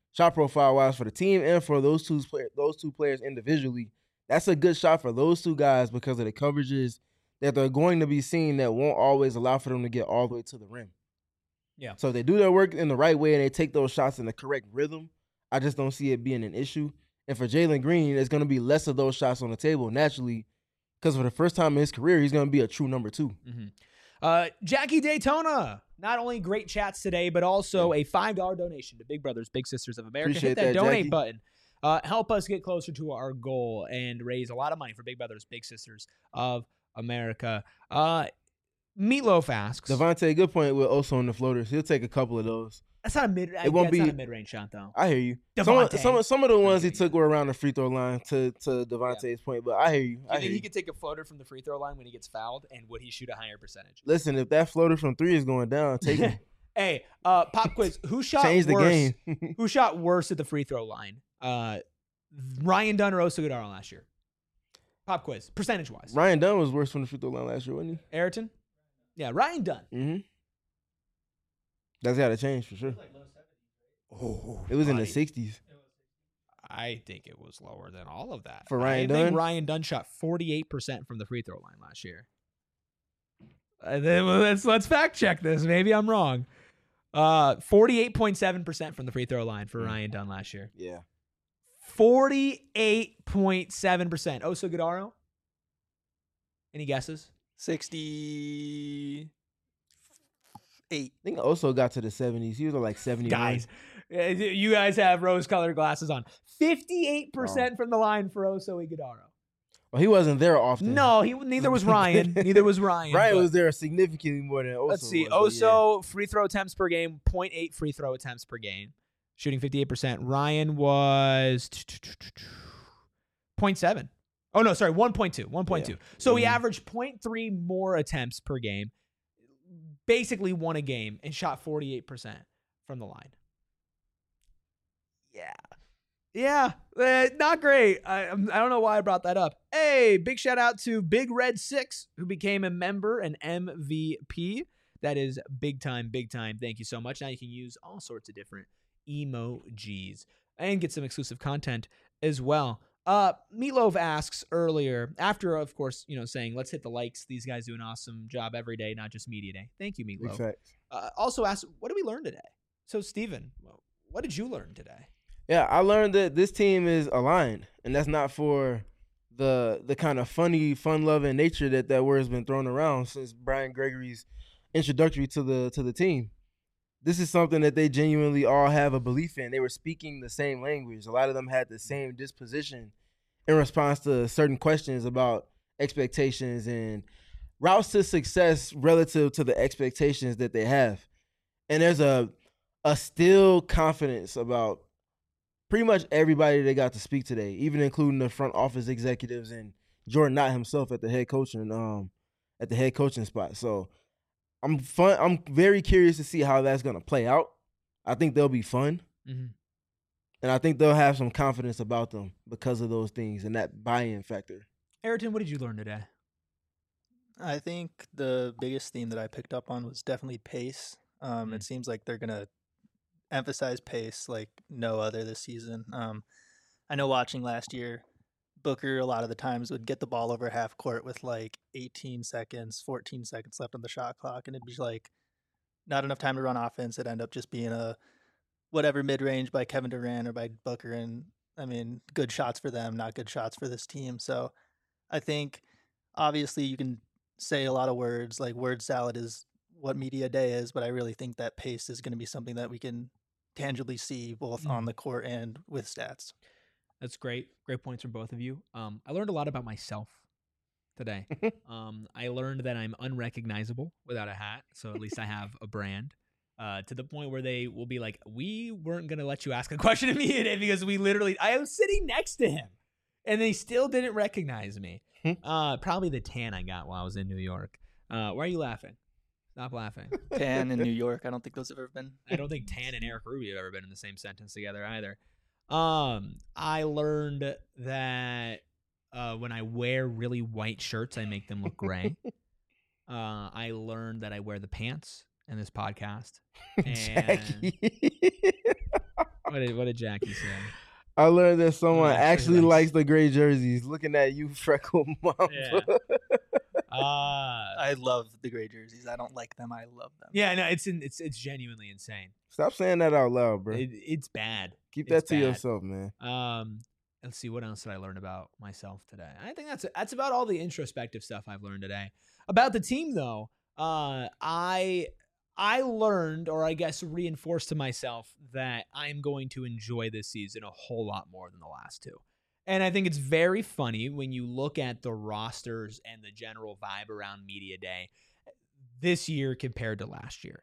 shot profile wise for the team and for those two players individually. That's a good shot for those two guys because of the coverages that they're going to be seeing that won't always allow for them to get all the way to the rim. Yeah. So if they do their work in the right way and they take those shots in the correct rhythm, I just don't see it being an issue. And for Jalen Green, there's going to be less of those shots on the table naturally because for the first time in his career, he's going to be a true number 2. Jackie Daytona. Not only great chats today, but also a $5 donation to Big Brothers Big Sisters of America. Appreciate Hit that that, donate Jackie. button. Help us get closer to our goal and raise a lot of money for Big Brothers Big Sisters of America. Meatloaf asks. Devontae, good point with Oso on the floaters. He'll take a couple of those. That's not a mid. It won't be not a mid-range shot though. I hear you. Devontae. Some of the ones he took were around the free throw line to Devontae's point, but I hear you. Do you think he could take a floater from the free throw line when he gets fouled, and would he shoot a higher percentage? Listen, if that floater from 3 is going down, take it. Hey, pop quiz. Who shot Change the worse? game. Who shot worse at the free throw line? Ryan Dunn or Oso Godaro last year? Pop quiz, percentage-wise. Ryan Dunn was worse from the free throw line last year, wasn't he? Ayrton? Yeah, Ryan Dunn. Mm-hmm. That's got to change for sure. It was in the 60s. I think it was lower than all of that. For Ryan I think Dunn? Ryan Dunn shot 48% from the free throw line last year. Then let's fact check this. Maybe I'm wrong. 48.7% from the free throw line for Ryan Dunn last year. Yeah. 48.7%. Oso Godaro? Any guesses? 68. I think Oso got to the 70s. He was at like 71. Guys, you guys have rose-colored glasses on. 58% from the line for Oso Godaro. Well, he wasn't there often. No, neither was Ryan. Neither was Ryan. Ryan was there significantly more than Oso. Let's see. was, Oso, free throw attempts per game, 0.8 free throw attempts per game, shooting 58%. Ryan was 0.7. Oh, no, sorry, 1.2. 1.2. So he averaged 0.3 more attempts per game, basically won a game, and shot 48% from the line. Yeah, not great. I don't know why I brought that up. Hey, big shout out to Big Red 6, who became a member, an MVP. That is big time, big time. Thank you so much. Now you can use all sorts of different emojis and get some exclusive content as well. Meatloaf asks earlier, after, of course, saying, let's hit the likes. These guys do an awesome job every day, not just media day. Thank you, Meatloaf. Also asked, what did we learn today? So, Steven, what did you learn today? Yeah, I learned that this team is aligned, and that's not for the kind of funny, fun-loving nature that word has been thrown around since Brian Gregory's introductory to the team. This is something that they genuinely all have a belief in. They were speaking the same language. A lot of them had the same disposition in response to certain questions about expectations and routes to success relative to the expectations that they have. And there's a still confidence about pretty much everybody they got to speak today, even including the front office executives and Jordan Knott himself at the head coaching spot. So I'm very curious to see how that's gonna play out. I think they'll be fun. Mm-hmm. And I think they'll have some confidence about them because of those things and that buy-in factor. Ayrton, what did you learn today? I think the biggest theme that I picked up on was definitely pace. It seems like they're going to emphasize pace like no other this season. I know watching last year, Booker a lot of the times would get the ball over half court with like 18 seconds, 14 seconds left on the shot clock, and it'd be like not enough time to run offense. It'd end up just being a whatever mid-range by Kevin Durant or by Booker, and I mean, good shots for them, not good shots for this team. So I think obviously you can say a lot of words, like word salad is what media day is, but I really think that pace is going to be something that we can tangibly see both on the court and with stats. That's great. Great points from both of you. I learned a lot about myself today. I learned that I'm unrecognizable without a hat, so at least I have a brand. To the point where they will be like, we weren't going to let you ask a question of me today because I was sitting next to him and they still didn't recognize me. Probably the tan I got while I was in New York. Why are you laughing? Stop laughing. Tan in New York. I don't think those have ever been. I don't think Tan and Eric Rubio have ever been in the same sentence together either. I learned that when I wear really white shirts, I make them look gray. I learned that I wear the pants in this podcast. And What did Jackie say? I learned that someone actually likes likes the gray jerseys. Looking at you, Freckle Mamba. Yeah. I love the gray jerseys. I don't like them. I love them. Yeah, no, it's genuinely insane. Stop saying that out loud, bro. It's bad. Keep It's that to bad. yourself, man. Let's see, what else did I learn about myself today? I think that's about all the introspective stuff I've learned today. About the team, though, I learned, or I guess reinforced to myself, that I'm going to enjoy this season a whole lot more than the last two. And I think it's very funny when you look at the rosters and the general vibe around Media Day this year compared to last year.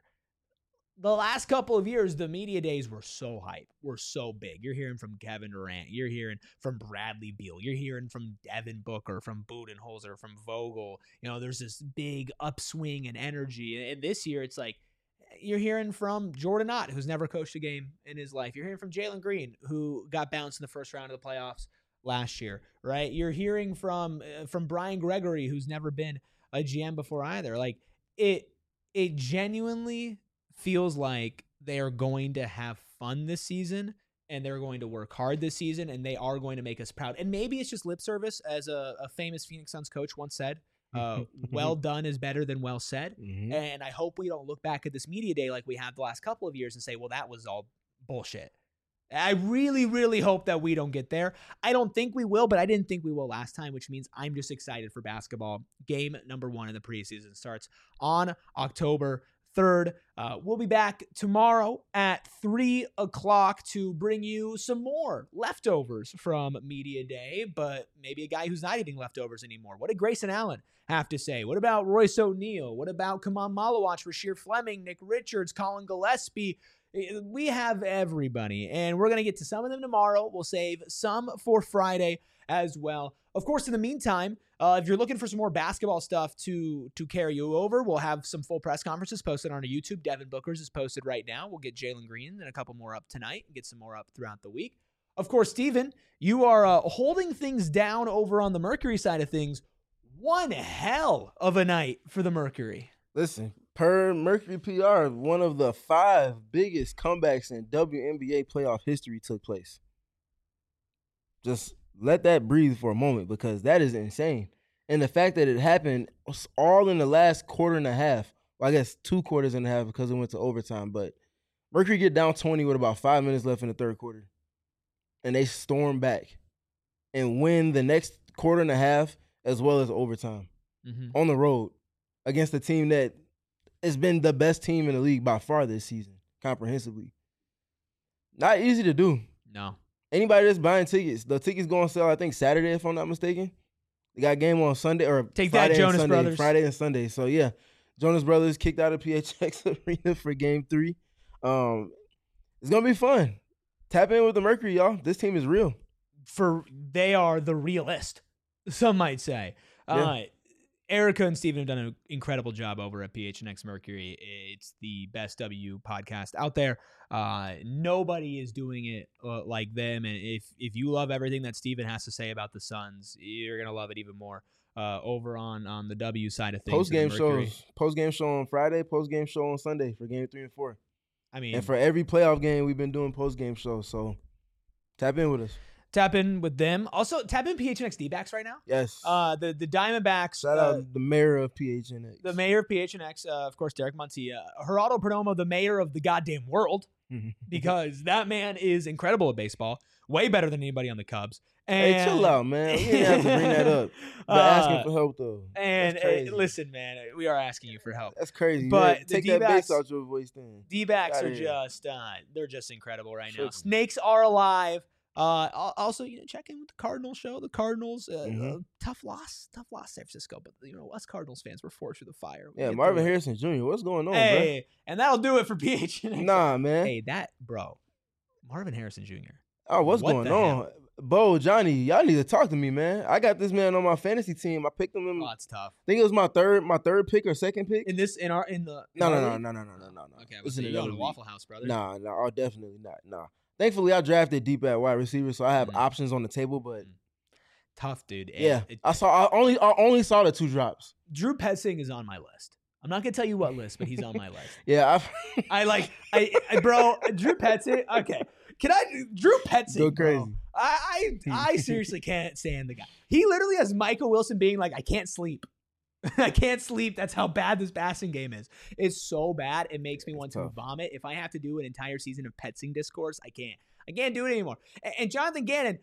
The last couple of years, the media days were so hype, were so big. You're hearing from Kevin Durant. You're hearing from Bradley Beal. You're hearing from Devin Booker, from Budenholzer, from Vogel. You know, there's this big upswing and energy. And this year, it's like you're hearing from Jordan Ott, who's never coached a game in his life. You're hearing from Jalen Green, who got bounced in the first round of the playoffs last year, right? You're hearing from Brian Gregory, who's never been a GM before either. Like, it genuinely feels like they are going to have fun this season, and they're going to work hard this season, and they are going to make us proud. And maybe it's just lip service, as a famous Phoenix Suns coach once said. Well done is better than well said. Mm-hmm. And I hope we don't look back at this media day like we have the last couple of years and say, well, that was all bullshit. I really, really hope that we don't get there. I don't think we will, but I didn't think we will last time, which means I'm just excited for basketball. Game number 1 in the preseason starts on October 3rd. We'll be back tomorrow at 3 o'clock to bring you some more leftovers from Media Day, but maybe a guy who's not eating leftovers anymore. What did Grayson Allen have to say? What about Royce O'Neal? What about Kaman Malawach, Rasheer Fleming, Nick Richards, Colin Gillespie? We have everybody, and we're going to get to some of them tomorrow. We'll save some for Friday as well. Of course, in the meantime, if you're looking for some more basketball stuff to carry you over, we'll have some full press conferences posted on our YouTube. Devin Booker's is posted right now. We'll get Jalen Green and a couple more up tonight and get some more up throughout the week. Of course, Steven, you are holding things down over on the Mercury side of things. One hell of a night for the Mercury. Listen, per Mercury PR, one of the 5 biggest comebacks in WNBA playoff history took place. Just let that breathe for a moment, because that is insane. And the fact that it happened all in the last quarter and a half, well, I guess 2 quarters and a half because it went to overtime, but Mercury get down 20 with about 5 minutes left in the third quarter. And they storm back and win the next quarter and a half as well as overtime on the road against a team that has been the best team in the league by far this season, comprehensively. Not easy to do. No. Anybody that's buying tickets, the tickets go on sale, I think, Saturday, if I'm not mistaken. They got a game on Sunday, or Take Friday that, Jonas and Sunday, Brothers. Friday and Sunday. So, yeah, Jonas Brothers kicked out of PHX Arena for Game 3. It's going to be fun. Tap in with the Mercury, y'all. This team is real. They are the realest, some might say. Yeah. Erica and Steven have done an incredible job over at PHNX Mercury. It's the best W podcast out there. Nobody is doing it like them. And if you love everything that Steven has to say about the Suns, you're going to love it even more over on the W side of things. Post-game show on Friday, post-game show on Sunday for Game 3 and 4. I mean, and for every playoff game, we've been doing post-game shows. So tap in with us. Tap in with them. Also, tap in PHNX D-backs right now. Yes. The Diamondbacks. Shout out the mayor of PHNX. The mayor of PHNX, of course, Derek Montilla. Geraldo Perdomo, the mayor of the goddamn world, because that man is incredible at baseball. Way better than anybody on the Cubs. And hey, chill out, man. We didn't have to bring that up. But asking for help, though. And listen, man, we are asking you for help. That's crazy. But take the that bass out your voice then. D-backs are just, they're just incredible right now. Snakes are alive. Also, check in with the Cardinals show. The Cardinals, tough loss, San Francisco. But us Cardinals fans, we're forged through the fire. Yeah, Marvin Harrison Jr. What's going on, bro? And that'll do it for PHNX. Nah, man. Hey, Marvin Harrison Jr. Oh, what's going on? Bo, Johnny, y'all need to talk to me, man. I got this man on my fantasy team. I picked him in. Oh, it's tough. I think it was my third pick or second pick. No. Okay, This is you on Waffle House, brother. Nah, definitely not. Nah. Thankfully, I drafted deep at wide receiver, so I have options on the table. But tough, dude. Yeah, I only saw the 2 drops. Drew Petzing is on my list. I'm not gonna tell you what list, but he's on my list. Yeah, bro, Drew Petzing. Okay, Drew Petzing, Go crazy. bro. I seriously can't stand the guy. He literally has Michael Wilson being like, I can't sleep. I can't sleep. That's how bad this passing game is. It's so bad. It makes me want to vomit. If I have to do an entire season of Petzing discourse, I can't. I can't do it anymore. And Jonathan Gannon,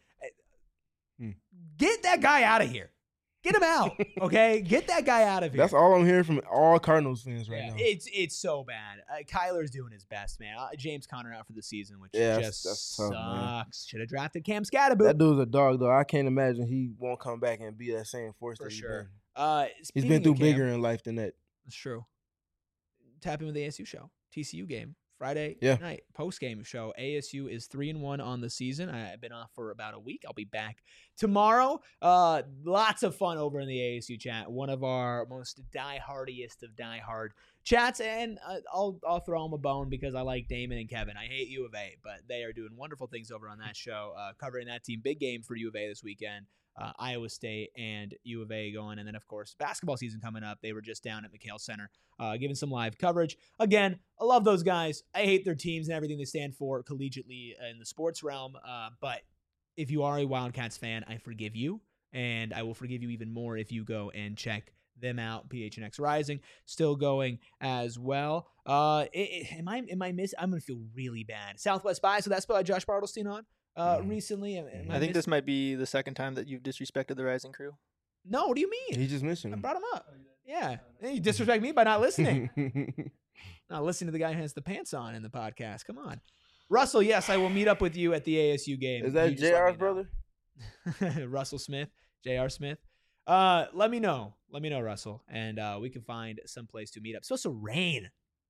get that guy out of here. Get him out, okay? Get that guy out of here. That's all I'm hearing from all Cardinals fans right now. It's so bad. Kyler's doing his best, man. James Conner out for the season, which just sucks. Should have drafted Cam Scatterboot. That dude's a dog, though. I can't imagine he won't come back and be that same force that he's been. He's been through bigger in life than that. That's true. Tap in with the ASU show. TCU game. Friday night post-game show. ASU is 3-1 on the season. I've been off for about a week. I'll be back tomorrow. Lots of fun over in the ASU chat. One of our most die-hardiest of die-hard chats, and I'll throw them a bone because I like Damon and Kevin. I hate U of A, but they are doing wonderful things over on that show, covering that team. Big game for U of A this weekend. Iowa State and U of A going. And then, of course, basketball season coming up. They were just down at McHale Center giving some live coverage. Again, I love those guys. I hate their teams and everything they stand for collegiately in the sports realm. But if you are a Wildcats fan, I forgive you. And I will forgive you even more if you go and check them out. PHNX Rising still going as well. Am I missing? I'm going to feel really bad. Southwest by, so that's by Josh Bartlestein on. Recently. I think this might be the second time that you've disrespected the Rising Crew. No, what do you mean? He just mentioned him. I brought him up. Yeah. You disrespect me by not listening. Not listening to the guy who has the pants on in the podcast. Come on. Russell, yes, I will meet up with you at the ASU game. Is that JR's brother? Russell Smith, JR Smith. Let me know. Let me know, Russell. And we can find some place to meet up. It's supposed to rain.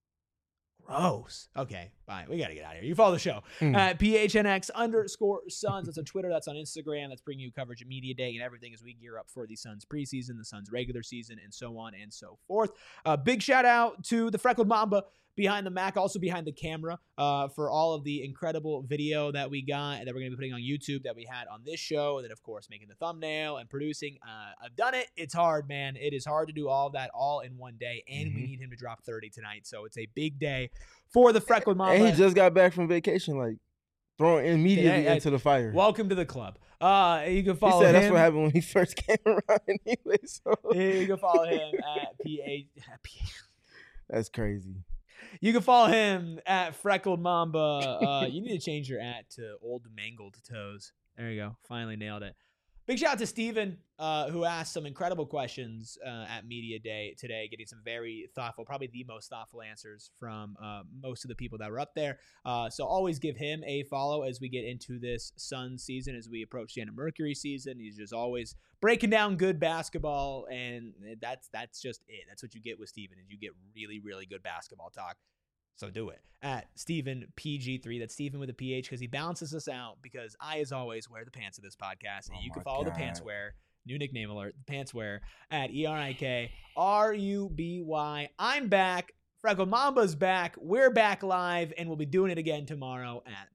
Gross. Okay, bye. We got to get out of here. You follow the show at PHNX_Suns. That's on Twitter. That's on Instagram. That's bringing you coverage of Media Day and everything as we gear up for the Suns preseason, the Suns regular season, and so on and so forth. Big shout out to the Freckled Mamba behind the Mac, also behind the camera, for all of the incredible video that we got and that we're going to be putting on YouTube that we had on this show. And then, of course, making the thumbnail and producing. I've done it. It's hard, man. It is hard to do all of that all in one day. And we need him to drop 30 tonight. So it's a big day for the Freckled Mamba. And he just got back from vacation, like throwing immediately into the fire. Welcome to the club. You can follow him. He said that's what happened when he first came around anyway. So you can follow him at PA. That's crazy. You can follow him at Freckled Mamba. You need to change your @ to Old Mangled Toes. There you go. Finally nailed it. Big shout out to Steven, who asked some incredible questions at Media Day today, getting some very thoughtful, probably the most thoughtful answers from most of the people that were up there. So always give him a follow as we get into this Suns season, as we approach the end of Mercury season. He's just always breaking down good basketball, and that's just it. That's what you get with Steven, is you get really, really good basketball talk. So do it at Steven PG3. That's Steven with a PH, because he balances us out, because I, as always, wear the pants of this podcast. And you can follow the Pantswear, new nickname alert, the Pantswear, at ERIKRUBY. I'm back. Freckled Mamba's back. We're back live, and we'll be doing it again tomorrow at